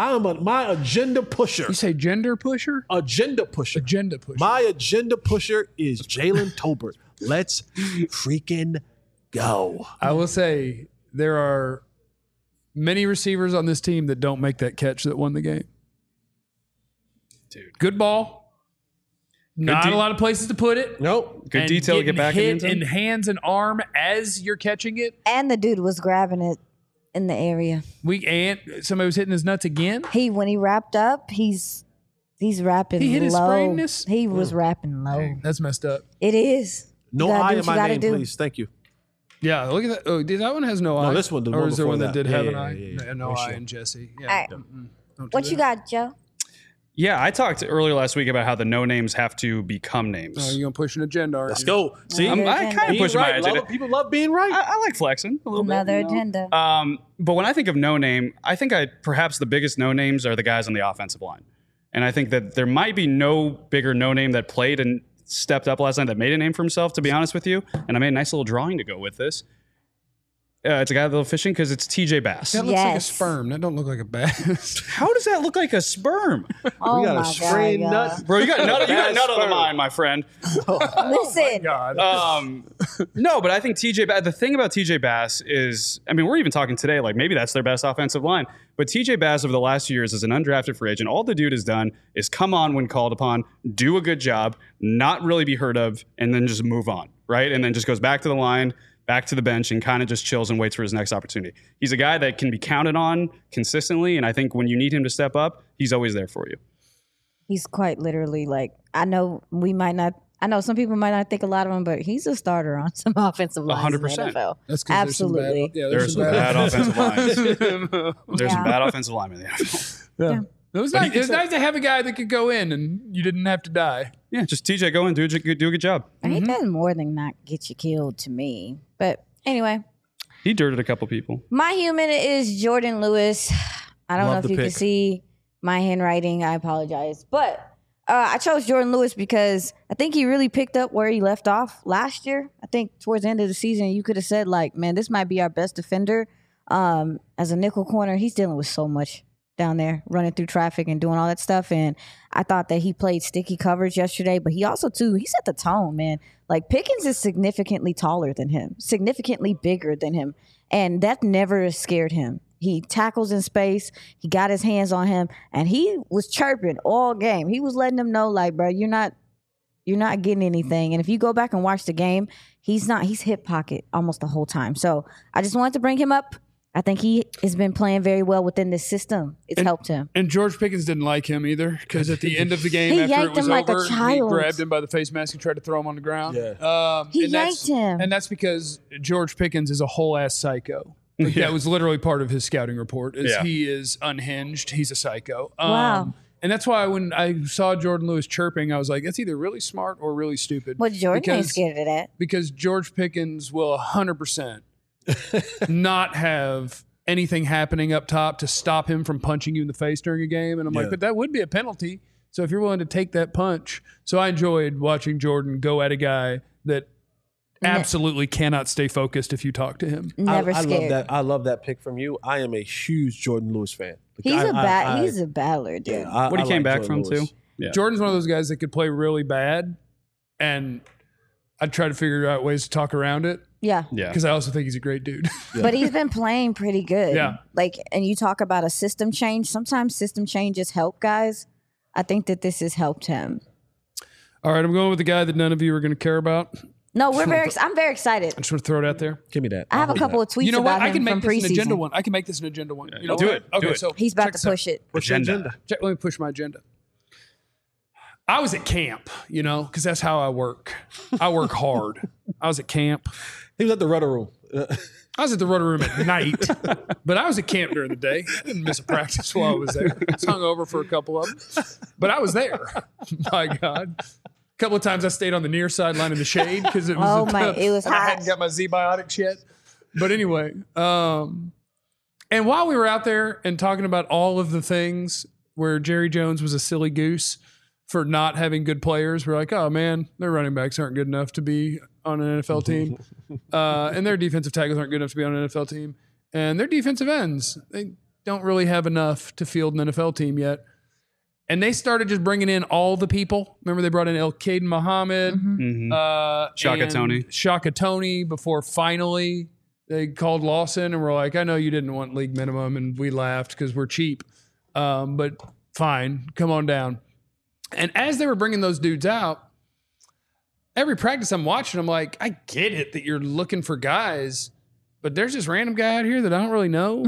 My agenda pusher. You say gender pusher? Agenda pusher. Agenda pusher. My agenda pusher is Jalen Tolbert. Let's freaking go. I will say there are many receivers on this team that don't make that catch that won the game. Dude. Good ball. Not de- a lot of places to put it. Nope. Good And detail to get getting back in the hit end zone. in hands and arm as you're catching it. And the dude was grabbing it in the area. Somebody was hitting his nuts again. When he wrapped up, he's rapping He hit his low. sprainness? He was rapping low. That's messed up. It is. No You gotta I do in what you my gotta name, do. please. Thank you. Yeah, look at that. Oh, that one has no eye. No, this one, the or one is there before one that that. did have an Yeah, eye? yeah, yeah. No For eye sure. in Jesse. Yeah. All right. Don't do What you that. got, Joe? Yeah, I talked earlier last week about how the no names have to become names. Oh, you're going to push an agenda, aren't Let's you? go. See, Another I agenda. kind of being push my right. agenda. People love being right. I like flexing a little Another bit. you know? agenda. But when I think of no name, I think perhaps the biggest no names are the guys on the offensive line. And I think that there might be no bigger no name that played and stepped up last night that made a name for himself, to be honest with you. And I made a nice little drawing to go with this. It's a guy that loves fishing because it's TJ Bass. That looks like a Yes. sperm. That don't look like a bass. How does that look like a sperm? Oh we got my a sprained God, nut. y'all. Bro, you got nut of the Sperm. mind, my friend. Listen, No, but I think the thing about TJ Bass is, I mean, we're even talking today, like maybe that's their best offensive line. But TJ Bass over the last few years as an undrafted free agent, all the dude has done is come on when called upon, do a good job, not really be heard of, and then just move on, right? And then just goes back to the line, back to the bench, and kind of just chills and waits for his next opportunity. He's a guy that can be counted on consistently, and I think when you need him to step up, he's always there for you. he's quite literally like, I know some people might not think a lot of him, but he's a starter on some offensive lines in the 100%. NFL. That's 'cause Absolutely. There's some bad offensive lines. There's some Yeah. bad offensive linemen in the NFL. Yeah. It was, But he nice. can It was say- nice to have a guy that could go in and you didn't have to die. Yeah, just TJ, go in, do a good job. And he does more than not get you killed to me. But anyway, He dirted a couple people. my human is Jordan Lewis. I don't Love know if the you can pick. see my handwriting. I apologize. But I chose Jordan Lewis because I think he really picked up where he left off last year. I think towards the end of the season, you could have said, like, man, this might be our best defender. As a nickel corner, he's dealing with so much down there, running through traffic and doing all that stuff. And I thought that he played sticky coverage yesterday, but he also, too, he set the tone, man. Like, Pickens is significantly taller than him, significantly bigger than him. And that never scared him. He tackles in space. He got his hands on him, and he was chirping all game. He was letting them know, like, bro, you're not getting anything. And if you go back and watch the game, he's hip pocket almost the whole time. So I just wanted to bring him up. I think he has been playing very well within this system. It's helped him. And George Pickens didn't like him either because at the end of the game, He after it yanked was him like a over, he child. grabbed him by the face mask and tried to throw him on the ground. Yeah. He and that's- yanked him. And that's because George Pickens is a whole ass psycho. Like, that was literally part of his scouting report. Is Yeah. He is unhinged. He's a psycho. Wow. And that's why when I saw Jordan Lewis chirping, I was like, that's either really smart or really stupid. Well, Jordan ain't Because- scared of that. Because George Pickens will 100% not have anything happening up top to stop him from punching you in the face during a game. And I'm Yeah. like, but that would be a penalty. So if you're willing to take that punch. So I enjoyed watching Jordan go at a guy that absolutely cannot stay focused if you talk to him. Never I scared. love that. I love that pick from you. I am a huge Jordan Lewis fan. He's I- he's a battler, dude. yeah, What he came back Jordan from, Lewis. too. Yeah. Jordan's one of those guys that could play really bad. And I'd try to figure out ways to talk around it Yeah. Yeah. because I also think he's a great dude. But he's been playing pretty good. Yeah. Like, and you talk about a system change. Sometimes system changes help guys. I think that this has helped him. All right, I'm going with the guy that none of you are going to care about. No, I'm very excited. I just want to throw it out there. Give me that. I have a couple of tweets You know what? about I him can make from this an agenda preseason. one. I can make this an agenda one. You know do what? it. Do Okay, it. so He's about check to this out. push it. What's your Agenda. Let me push my agenda. I was at camp, you know, because that's how I work. I work hard. I was at camp. He was at the rudder room. I was at the rudder room at night, but I was at camp during the day. I didn't miss a practice while I was there. I was hung over for a couple of them, but I was there. My God. A couple of times I stayed on the near sideline in the shade because it was it was and I hot. hadn't got my Z-Biotics yet. But anyway, and while we were out there and talking about all of the things where Jerry Jones was a silly goose for not having good players, we're like, oh man, their running backs aren't good enough to be on an NFL team. And their defensive tackles aren't good enough to be on an NFL team. And their defensive ends, they don't really have enough to field an NFL team yet. And they started just bringing in all the people. Remember, they brought in El-Caden Muhammad, Shaka and Toney. Shaka Toney before finally they called Lawson and were like, I know you didn't want league minimum, and we laughed because we're cheap. But fine, come on down. And as they were bringing those dudes out, every practice I'm watching, I'm like, I get it that you're looking for guys, but there's this random guy out here that I don't really know.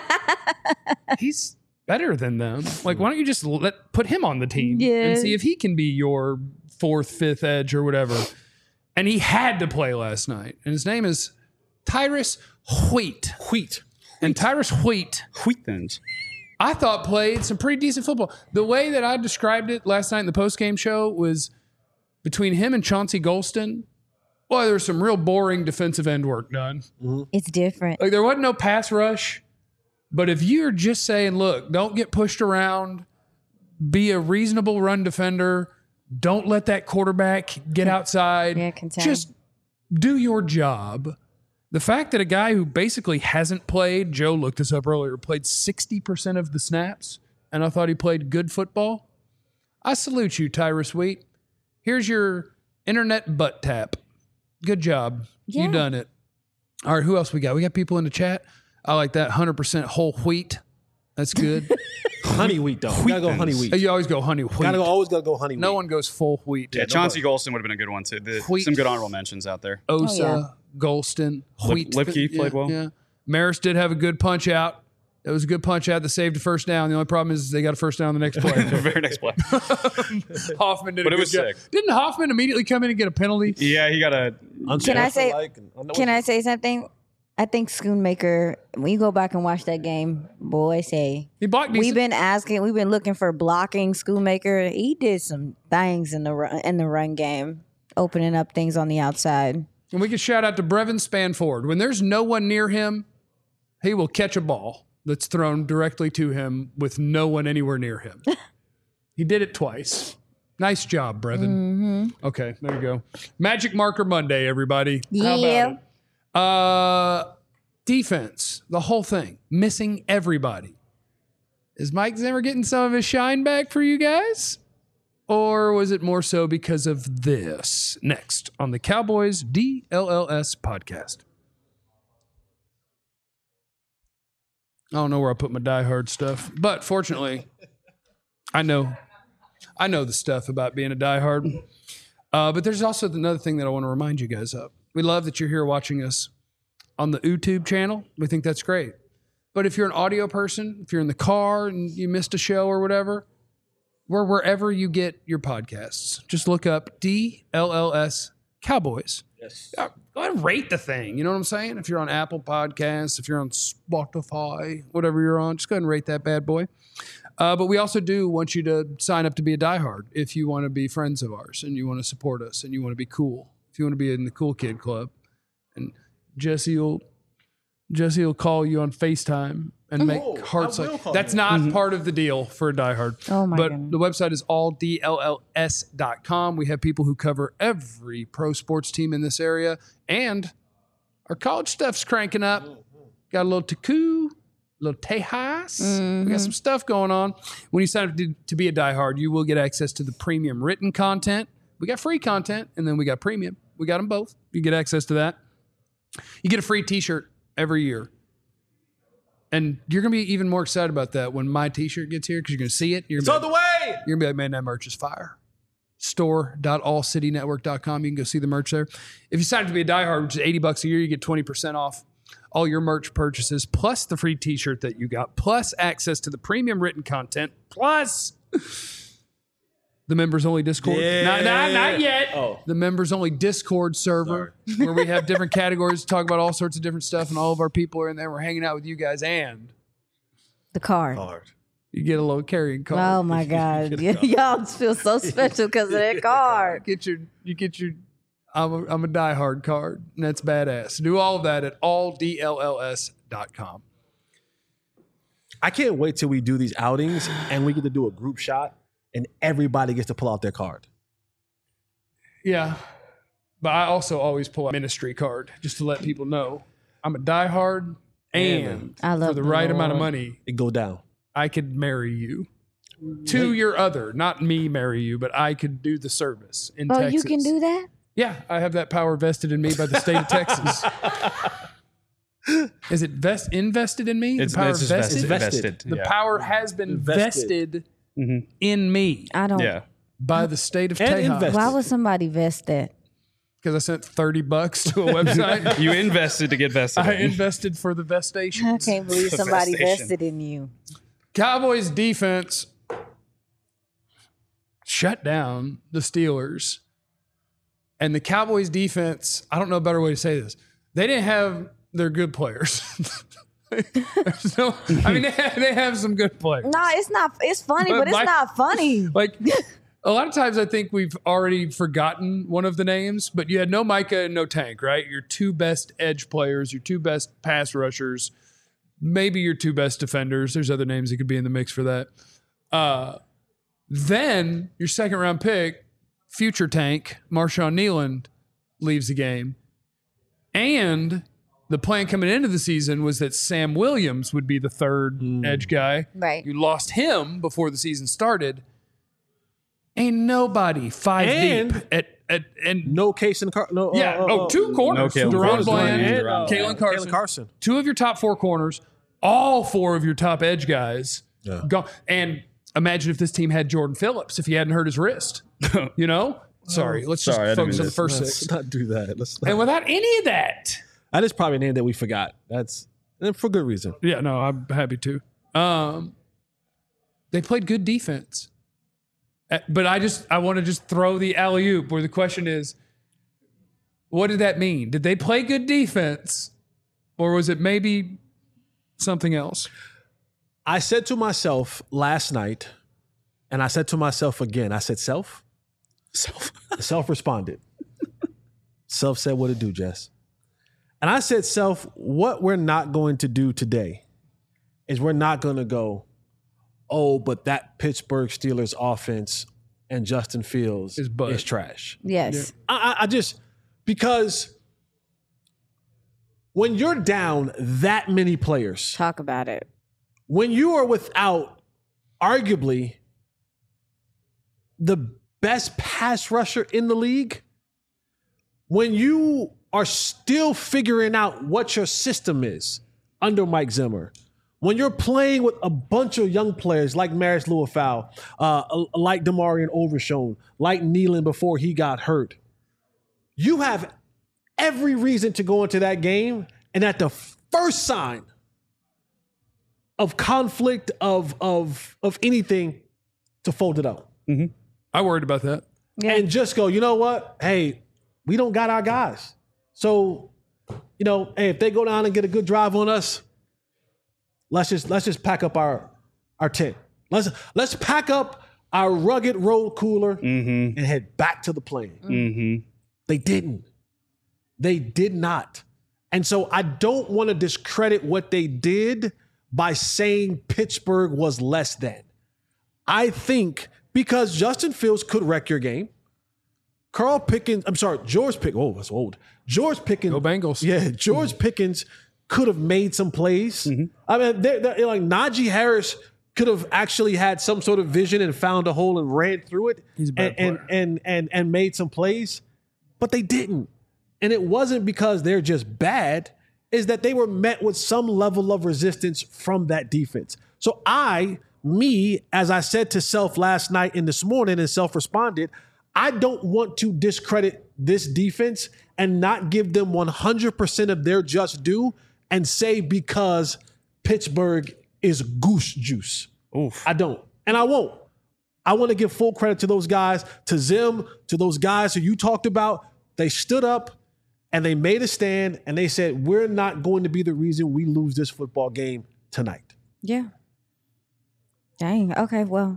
He's better than them. Like, why don't you just put him on the team and see if he can be your fourth, fifth edge or whatever. And he had to play last night. And his name is Tyrus Wheat. And Tyrus Wheat, Wheatthins. I thought played some pretty decent football. The way that I described it last night in the postgame show was between him and Chauncey Golston. Well, there was some real boring defensive end work done. It's different. Like, there wasn't no pass rush. But if you're just saying, look, don't get pushed around, be a reasonable run defender, don't let that quarterback get outside, Yeah, contain. just do your job. The fact that a guy who basically hasn't played, Joe looked this up earlier, played 60% of the snaps, and I thought he played good football. I salute you, Tyrus Wheat. Here's your internet butt tap. Good job. Yeah. You done it. All right, who else we got? We got people in the chat. I like that 100% whole wheat. That's good. Honey wheat, though. You gotta go honey wheat. You always go honey wheat. Always gotta go honey wheat. No one goes full wheat. Yeah, Chauncey Golston would have been a good one, too. Wheat. Some good honorable mentions out there. Osa, Oh, yeah. Golston, Wheat. Lipke played well. Yeah. Maris did have a good punch out. It was a good punch out that saved a first down. The only problem is they got a first down the next play. The very next play. Hoffman did But a it good was job. sick. Didn't Hoffman immediately come in and get a penalty? Yeah, he got a. Can I say? Can I say something? I think Schoonmaker. When you go back and watch that game, boy, say He blocked decent. we've been looking for blocking Schoonmaker. He did some things in the run game, opening up things on the outside. And we can shout out to Brevin Spanford. When there's no one near him, he will catch a ball that's thrown directly to him with no one anywhere near him. He did it twice. Nice job, Brevin. Mm-hmm. Okay, there you go. Magic Marker Monday, everybody. How Yeah. about it? Defense, the whole thing, missing everybody. Is Mike Zimmer getting some of his shine back for you guys? Or was it more so because of this? Next on the Cowboys DLLS podcast. I don't know where I put my diehard stuff, but fortunately, I know the stuff about being a diehard. But there's also another thing that I want to remind you guys of. We love that you're here watching us on the YouTube channel. We think that's great. But if you're an audio person, if you're in the car and you missed a show or whatever, we're wherever you get your podcasts. Just look up DLLS Cowboys. Yes. Go ahead and rate the thing. You know what I'm saying? If you're on Apple Podcasts, if you're on Spotify, whatever you're on, just go ahead and rate that bad boy. But we also do want you to sign up to be a diehard if you want to be friends of ours and you want to support us and you want to be cool. If you want to be in the cool kid club. And Jesse will call you on FaceTime and make hearts I will like call that's you. not part of the deal for a diehard. Oh my But goodness. the website is alldlls.com. We have people who cover every pro sports team in this area, and our college stuff's cranking up. Got a little Taku, a little Tejas. We got some stuff going on. When you sign up to be a diehard, you will get access to the premium written content. We got free content, and then we got premium. We got them both. You get access to that. You get a free T-shirt every year. And you're going to be even more excited about that when my T-shirt gets here because you're going to see it. You're It's gonna on be the like, way. you're going to be like, man, that merch is fire. Store.allcitynetwork.com. You can go see the merch there. If you sign up to be a diehard, which is $80 a year, you get 20% off all your merch purchases, plus the free T-shirt that you got, plus access to the premium written content, plus the members-only Discord. Yeah. Not yet. Oh. The members-only Discord server where we have different categories to talk about all sorts of different stuff, and all of our people are in there. We're hanging out with you guys, and The card. Hard. you get a little carrying card. Oh my God. Y'all feel so special because of that card. You get your I'm a diehard card, and that's badass. Do all of that at alldlls.com. I can't wait till we do these outings and we get to do a group shot and everybody gets to pull out their card. Yeah. But I also always pull a ministry card just to let people know I'm a diehard, and I love for the the right amount of Lord. money, It go down. I could marry you to your other, not me marry you, but I could do the service in Oh, Texas. you can do that? Yeah, I have that power vested in me by the state of Texas. Is it invested in me? It's the power just vested? vested. The Yeah. power has been Invested. vested in me I don't. Yeah. by the state of And Texas. invested. Why would somebody vest that? Because I sent $30 to a website. You invested to get vested. I in. invested for the vestation. I can't believe somebody Vestation. vested in you. Cowboys defense shut down the Steelers. And the Cowboys defense, I don't know a better way to say this. They didn't have their good players. There's no, I mean, they have some good players. No, it's not. It's funny, but it's Mike- not funny. Like a lot of times I think we've already forgotten one of the names, but you had no Micah and no Tank, right? Your two best edge players, your two best pass rushers, maybe your two best defenders. There's other names that could be in the mix for that. Then your second round pick, future Tank, Marshawn Nealand, leaves the game. And the plan coming into the season was that Sam Williams would be the third edge guy. Right. You lost him before the season started. Ain't nobody five And- deep and No case in the car. No. two corners. No Kalen Deron Carson. Bland, And, Kalen Carson. Kalen Carson. Two of your top four corners, all four of your top edge guys. Yeah. Gone. And imagine if this team had Jordan Phillips if he hadn't hurt his wrist. You know? Sorry, let's Sorry, I just didn't focus mean on the to- first Let's six. not do that. Let's not. And without any of that, That is probably a name that we forgot. That's and for good reason. yeah, no, I'm happy to. They played good defense. But I want to just throw the alley-oop where the question is, what did that mean? Did they play good defense or was it maybe something else? I said to myself last night, and I said to myself again, I said, self? Self responded. Self said, what to do, Jess? And I said, self, what we're not going to do today is we're not going to go, oh, but that Pittsburgh Steelers offense and Justin Fields Is butt. is trash. Yes. I just, because when you're down that many players, Talk about it. when you are without arguably the best pass rusher in the league, when you are still figuring out what your system is under Mike Zimmer, when you're playing with a bunch of young players like Maris Luafau, like Damarian Overshone, like Nealon before he got hurt, you have every reason to go into that game and at the first sign conflict of anything to fold it out. I worried about that. Yeah. And just go, you know what? Hey, we don't got our guys. So, hey, if they go down and get a good drive on us, let's just pack up our tent. Let's pack up our rugged road cooler and head back to the plane. They didn't. They did not. And so I don't want to discredit what they did by saying Pittsburgh was less than. I think because Justin Fields could wreck your game. George Pickens. Oh, that's old. George Pickens. Go Bengals. Yeah, George Pickens could have made some plays. I mean, they're like Najee Harris could have actually had some sort of vision and found a hole and ran through it. He's a bad player. and made some plays, but they didn't. And it wasn't because they're just bad, is that they were met with some level of resistance from that defense. So as I said to self last night and this morning and self responded, I don't want to discredit this defense and not give them 100% of their just due and say because Pittsburgh is goose juice. Oof. I don't. And I won't. I want to give full credit to those guys, to Zim, to those guys who you talked about. They stood up and they made a stand and they said, we're not going to be the reason we lose this football game tonight. Yeah. Dang. Okay. Well,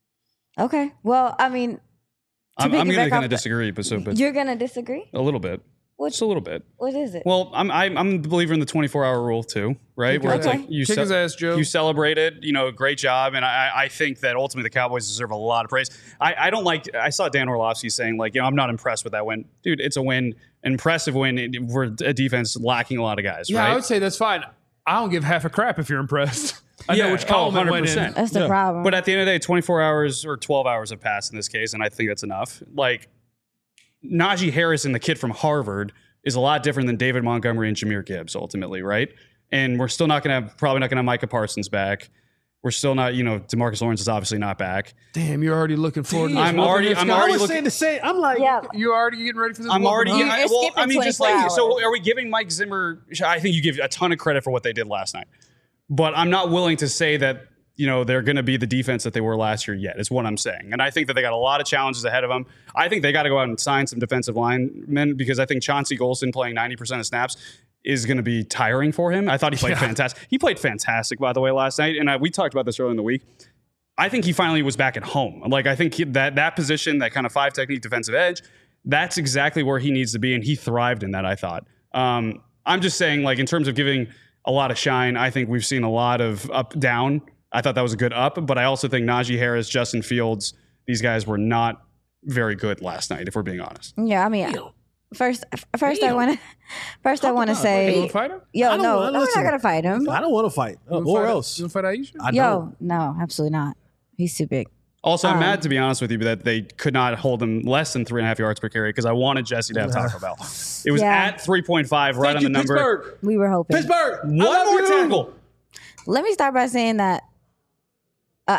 I mean, I'm going to piggyback kind off of disagree, but you're going to disagree? a little bit. Just a little bit. What is it? Well, I'm a believer in the 24-hour rule too, right? Where it's Okay. like you Kick his ass, Joe. You celebrated, great job, and I think that ultimately the Cowboys deserve a lot of praise. I don't like. I saw Dan Orlovsky saying like, I'm not impressed with that win, dude. It's a win, impressive win. We're a defense lacking a lot of guys, Yeah, right? I would say that's fine. I don't give half a crap if you're impressed. I know which column it went in. 100%. That's the problem. But at the end of the day, 24 hours or 12 hours have passed in this case, and I think that's enough. Like Najee Harris and the kid from Harvard is a lot different than David Montgomery and Jahmyr Gibbs ultimately, right? And we're still probably not going to have Micah Parsons back. We're still not, DeMarcus Lawrence is obviously not back. Damn, you're already looking forward to this. I'm already I was looking. saying the same. I'm like, yeah. You're already getting ready for this. I'm already. whooping, huh? You're skipping just 24 like, so hours. are we giving Mike Zimmer? I think you give a ton of credit for what they did last night, but I'm not willing to say that they're going to be the defense that they were last year yet. Is what I'm saying, and I think that they got a lot of challenges ahead of them. I think they got to go out and sign some defensive linemen because I think Chauncey Golston playing 90% of snaps is going to be tiring for him. I thought he played fantastic. He played fantastic, by the way, last night, and we talked about this earlier in the week. I think he finally was back at home. Like I think that position, that kind of 5 technique defensive edge, that's exactly where he needs to be, and he thrived in that. I thought. I'm just saying, like in terms of giving a lot of shine, I think we've seen a lot of up down. I thought that was a good up, but I also think Najee Harris, Justin Fields, these guys were not very good last night, if we're being honest. Yeah, I mean, first I want to You say, want to fight him? yo, I don't no, wanna- we're listen. not gonna fight him. I don't want to fight. You wanna Or fight- else. You want to fight Aisha? I don't. Yo, no, absolutely not. He's too big. Also, I'm mad, to be honest with you, that they could not hold him less than 3.5 yards per carry because I wanted Jesse to have Taco Bell. It was Yeah. at 3.5, right Thank on you, the number. Pittsburgh. We were hoping. Pittsburgh. I One love more you. tackle. Let me start by saying that an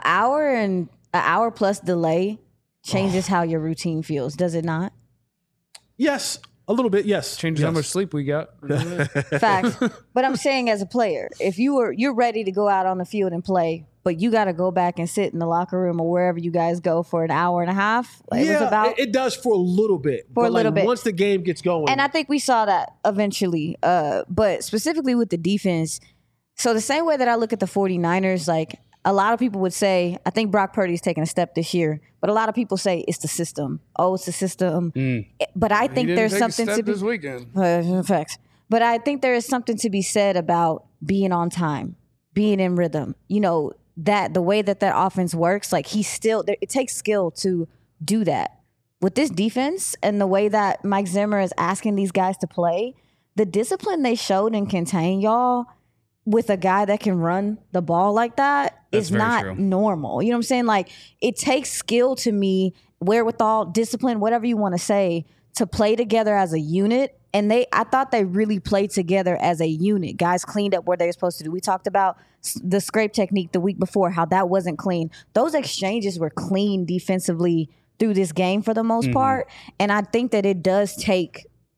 hour plus delay changes how your routine feels, does it not? Yes, a little bit. Yes, Changes yes. how much sleep we got. Facts. But I'm saying as a player, if you're ready to go out on the field and play, but you got to go back and sit in the locker room or wherever you guys go for an hour and a half. Like, it was about it does for a little bit. For a little bit. Once the game gets going. And I think we saw that eventually. But specifically with the defense, so the same way that I look at the 49ers, like a lot of people would say, I think Brock Purdy's taking a step this year, but a lot of people say it's the system. Oh, it's the system. But I think He didn't there's take a something step to be this weekend. facts. But I think there is something to be said about being on time, being in rhythm. That the way that offense works, like it takes skill to do that. With this defense and the way that Mike Zimmer is asking these guys to play, the discipline they showed and contain y'all with a guy that can run the ball like that That's is very not true. normal. You know what I'm saying? Like it takes skill to me, wherewithal, discipline, whatever you want to say, to play together as a unit. And I thought they really played together as a unit. Guys cleaned up where they were supposed to do. We talked about the scrape technique the week before, how that wasn't clean. Those exchanges were clean defensively through this game for the most part. And I think that it does take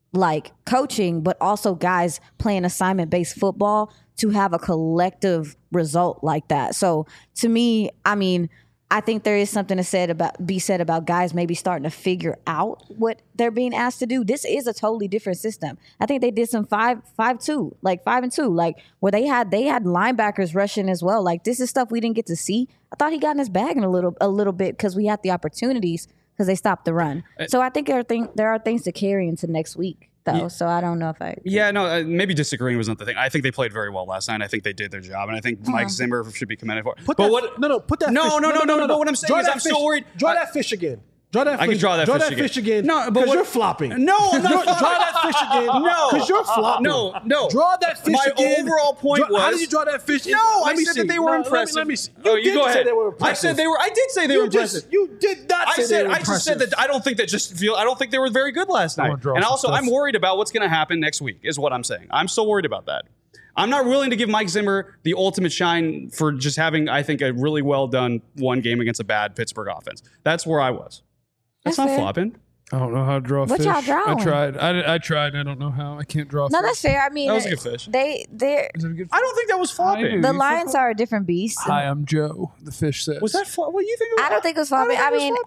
like coaching, but also guys playing assignment-based football to have a collective result like that. So to me, I mean, I think there is something to be said about guys maybe starting to figure out what they're being asked to do. This is a totally different system. I think they did some 5-2, like 5-2, like where they had linebackers rushing as well. Like this is stuff we didn't get to see. I thought he got in his bag in a little bit because we had the opportunities because they stopped the run. So I think there are things to carry into next week. Though, so I don't know if I. Yeah, no, maybe disagreeing was not the thing. I think they played very well last night. I think they did their job, and I think Mike Zimmer should be commended for it. Put that fish. But what I'm saying is, I'm so worried. Draw that fish again. Draw that fish. I can draw that fish again. No, because you're flopping. No, I'm not Draw that fish again. No, because you're flopping. No. Draw that fish again. My overall point was. How did you draw that fish? No, I said that they were impressive. Let me see. You go ahead. They were impressive. I said they were. I did say they were impressive. You did not say they were impressive. I just said that I don't think I don't think they were very good last night. And also, I'm worried about what's going to happen next week. Is what I'm saying. I'm so worried about that. I'm not willing to give Mike Zimmer the ultimate shine for just having, I think, a really well done one game against a bad Pittsburgh offense. That's where I was. That's not fair. flopping. I don't know how to draw a What fish. y'all drawing? I tried. I tried. I don't know how. I can't draw a No, fish. that's fair. I mean, That was a good fish. They're Is it a good I don't think that was I flopping. do. the You Lions are a different beast. Hi, I'm Joe. The fish says. Was that what you think? I don't think it was flopping. I mean,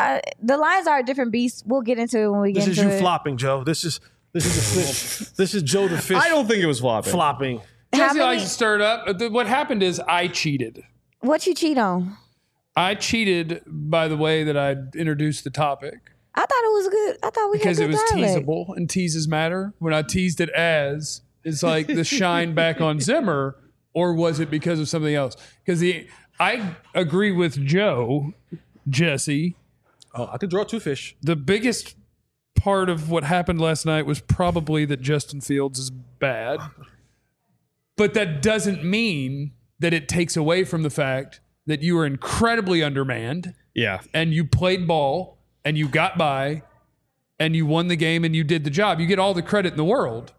the Lions are a different beast. We'll get into it when we get This is into you it. flopping, Joe. This is the fish. This is Joe the fish. I don't think it was flopping. flopping. How Jesse many- likes to stir it up. What happened is I cheated. What you cheat on? I cheated by the way that I introduced the topic I thought it was good. I thought we because had it good was dialect. teasable and teases matter. When I teased it as, it's like the shine back on Zimmer, or was it because of something else? Because I agree with Joe, Jesse. Oh, I could draw two fish. The biggest part of what happened last night was probably that Justin Fields is bad. But that doesn't mean that it takes away from the fact that you were incredibly undermanned Yeah. and you played ball and you got by and you won the game and you did the job. You get all the credit in the world.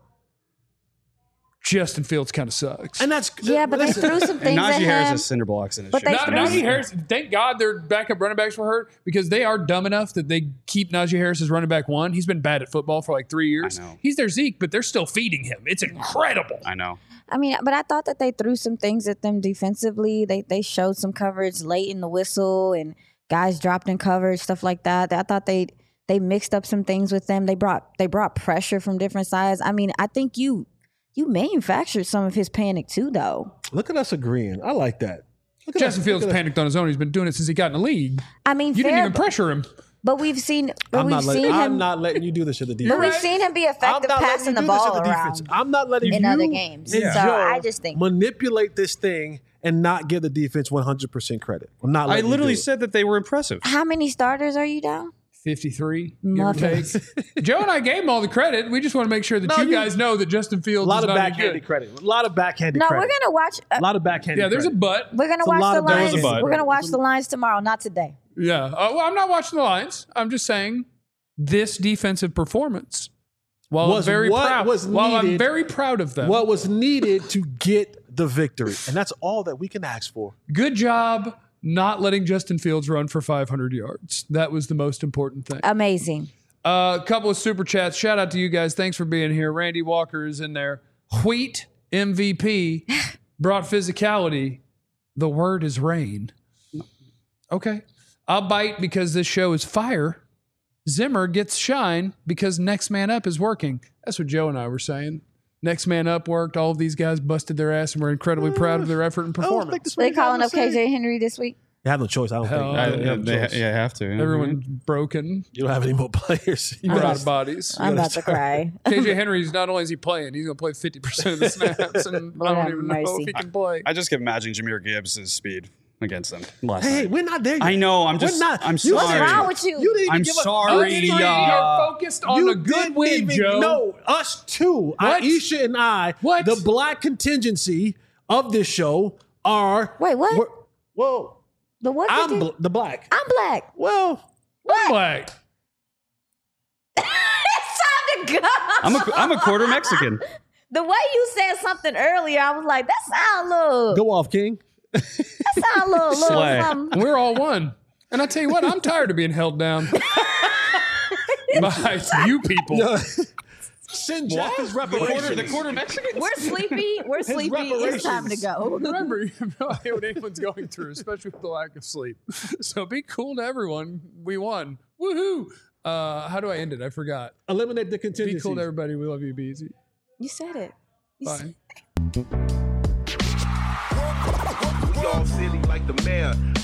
Justin Fields kind of sucks. And that's Yeah, but they threw some And things at Najee Harris him. has cinder blocks in his But shoe. they Not threw- Najee Harris, thank God their backup running backs were hurt because they are dumb enough that they keep Najee Harris as running back one. He's been bad at football for like 3 years. I know. He's their Zeke, but they're still feeding him. It's incredible. I know. I mean, but I thought that they threw some things at them defensively. They showed some coverage late in the whistle and guys dropped in coverage, stuff like that. I thought they mixed up some things with them. They brought pressure from different sides. I mean, I think you manufactured some of his panic too, though. look at us agreeing. I like that. Look at Justin us- Fields look at us- panicked on his own. He's been doing it since he got in the league. I mean, You didn't fair, even pressure him. but we've seen, I'm not him. letting you do this to the But defense. we've seen him be I'm effective not letting passing you the do this to ball the defense. around I'm not letting in you other games. and So Joe I just think manipulate this thing and not give the defense 100% credit. I'm not. I letting you literally do it. said that they were impressive. how many starters are you down? 53, give or take. Muffins. Joe and I gave him all the credit. We just want to make sure that you guys know that Justin a Fields lot is of not any backhanded good. credit. A lot of backhanded No, credit. we're gonna watch. a lot of backhanded. Yeah, there's a credit. but. We're gonna It's a lot watch the of- there was Lions. a but. We're gonna watch the Lions tomorrow, not today. Yeah. Well, I'm not watching the Lions. I'm just saying this defensive performance. While Was I'm very what proud. was While I'm needed- very proud of them. What was needed to get the victory, and that's all that we can ask for. Good job not letting Justin Fields run for 500 yards. That was the most important thing. Amazing. A couple of super chats. Shout out to you guys. Thanks for being here. Randy Walker is in there. Wheat MVP brought physicality. The word is rain. Okay. I'll bite because this show is fire. Zimmer gets shine because Next Man Up is working. That's what Joe and I were saying. Next Man Up worked. All of these guys busted their ass and we're incredibly proud of their effort and I don't think performance. that's what They you gotta calling up say. KJ Henry this week. You have no choice. I don't Hell, think. I- You have no choice. have to. Everyone's broken. You don't have any more players. You We're gotta- out of bodies. I'm about to cry. KJ Henry's not only is he playing, he's going to play 50% of the snaps, and I Lord don't have even know mercy. if he can play. I just kept imagining Jameer Gibbs' speed against them last Hey, night. we're not there yet. I know. I'm just. We're not. I'm You- sorry. What's wrong with you? You didn't even I'm give us- sorry. You You're focused on You a good didn't win, even- Joe. No, us two, What? Aisha and I, What? the black contingency of this show are. Wait, what? we're- Whoa, The what? I'm did you- the black. I'm black. Well, I'm like, It's time to go. I'm a quarter Mexican. The way you said something earlier, I was like, that sound a little. go off, King. That sound a little Slay. something. we're all one. And I tell you what, I'm tired of being held down by you people. Send Jeff his The reparations. quarter Mexicans? We're sleepy. We're sleepy. It's time to go. Remember, you have no idea what anyone's going through, especially with the lack of sleep. So be cool to everyone. We won. Woohoo! How do I end it? I forgot. Eliminate the contingencies. Be cool to everybody. We love you, Be easy. You said it. Bye. We all silly like the mayor.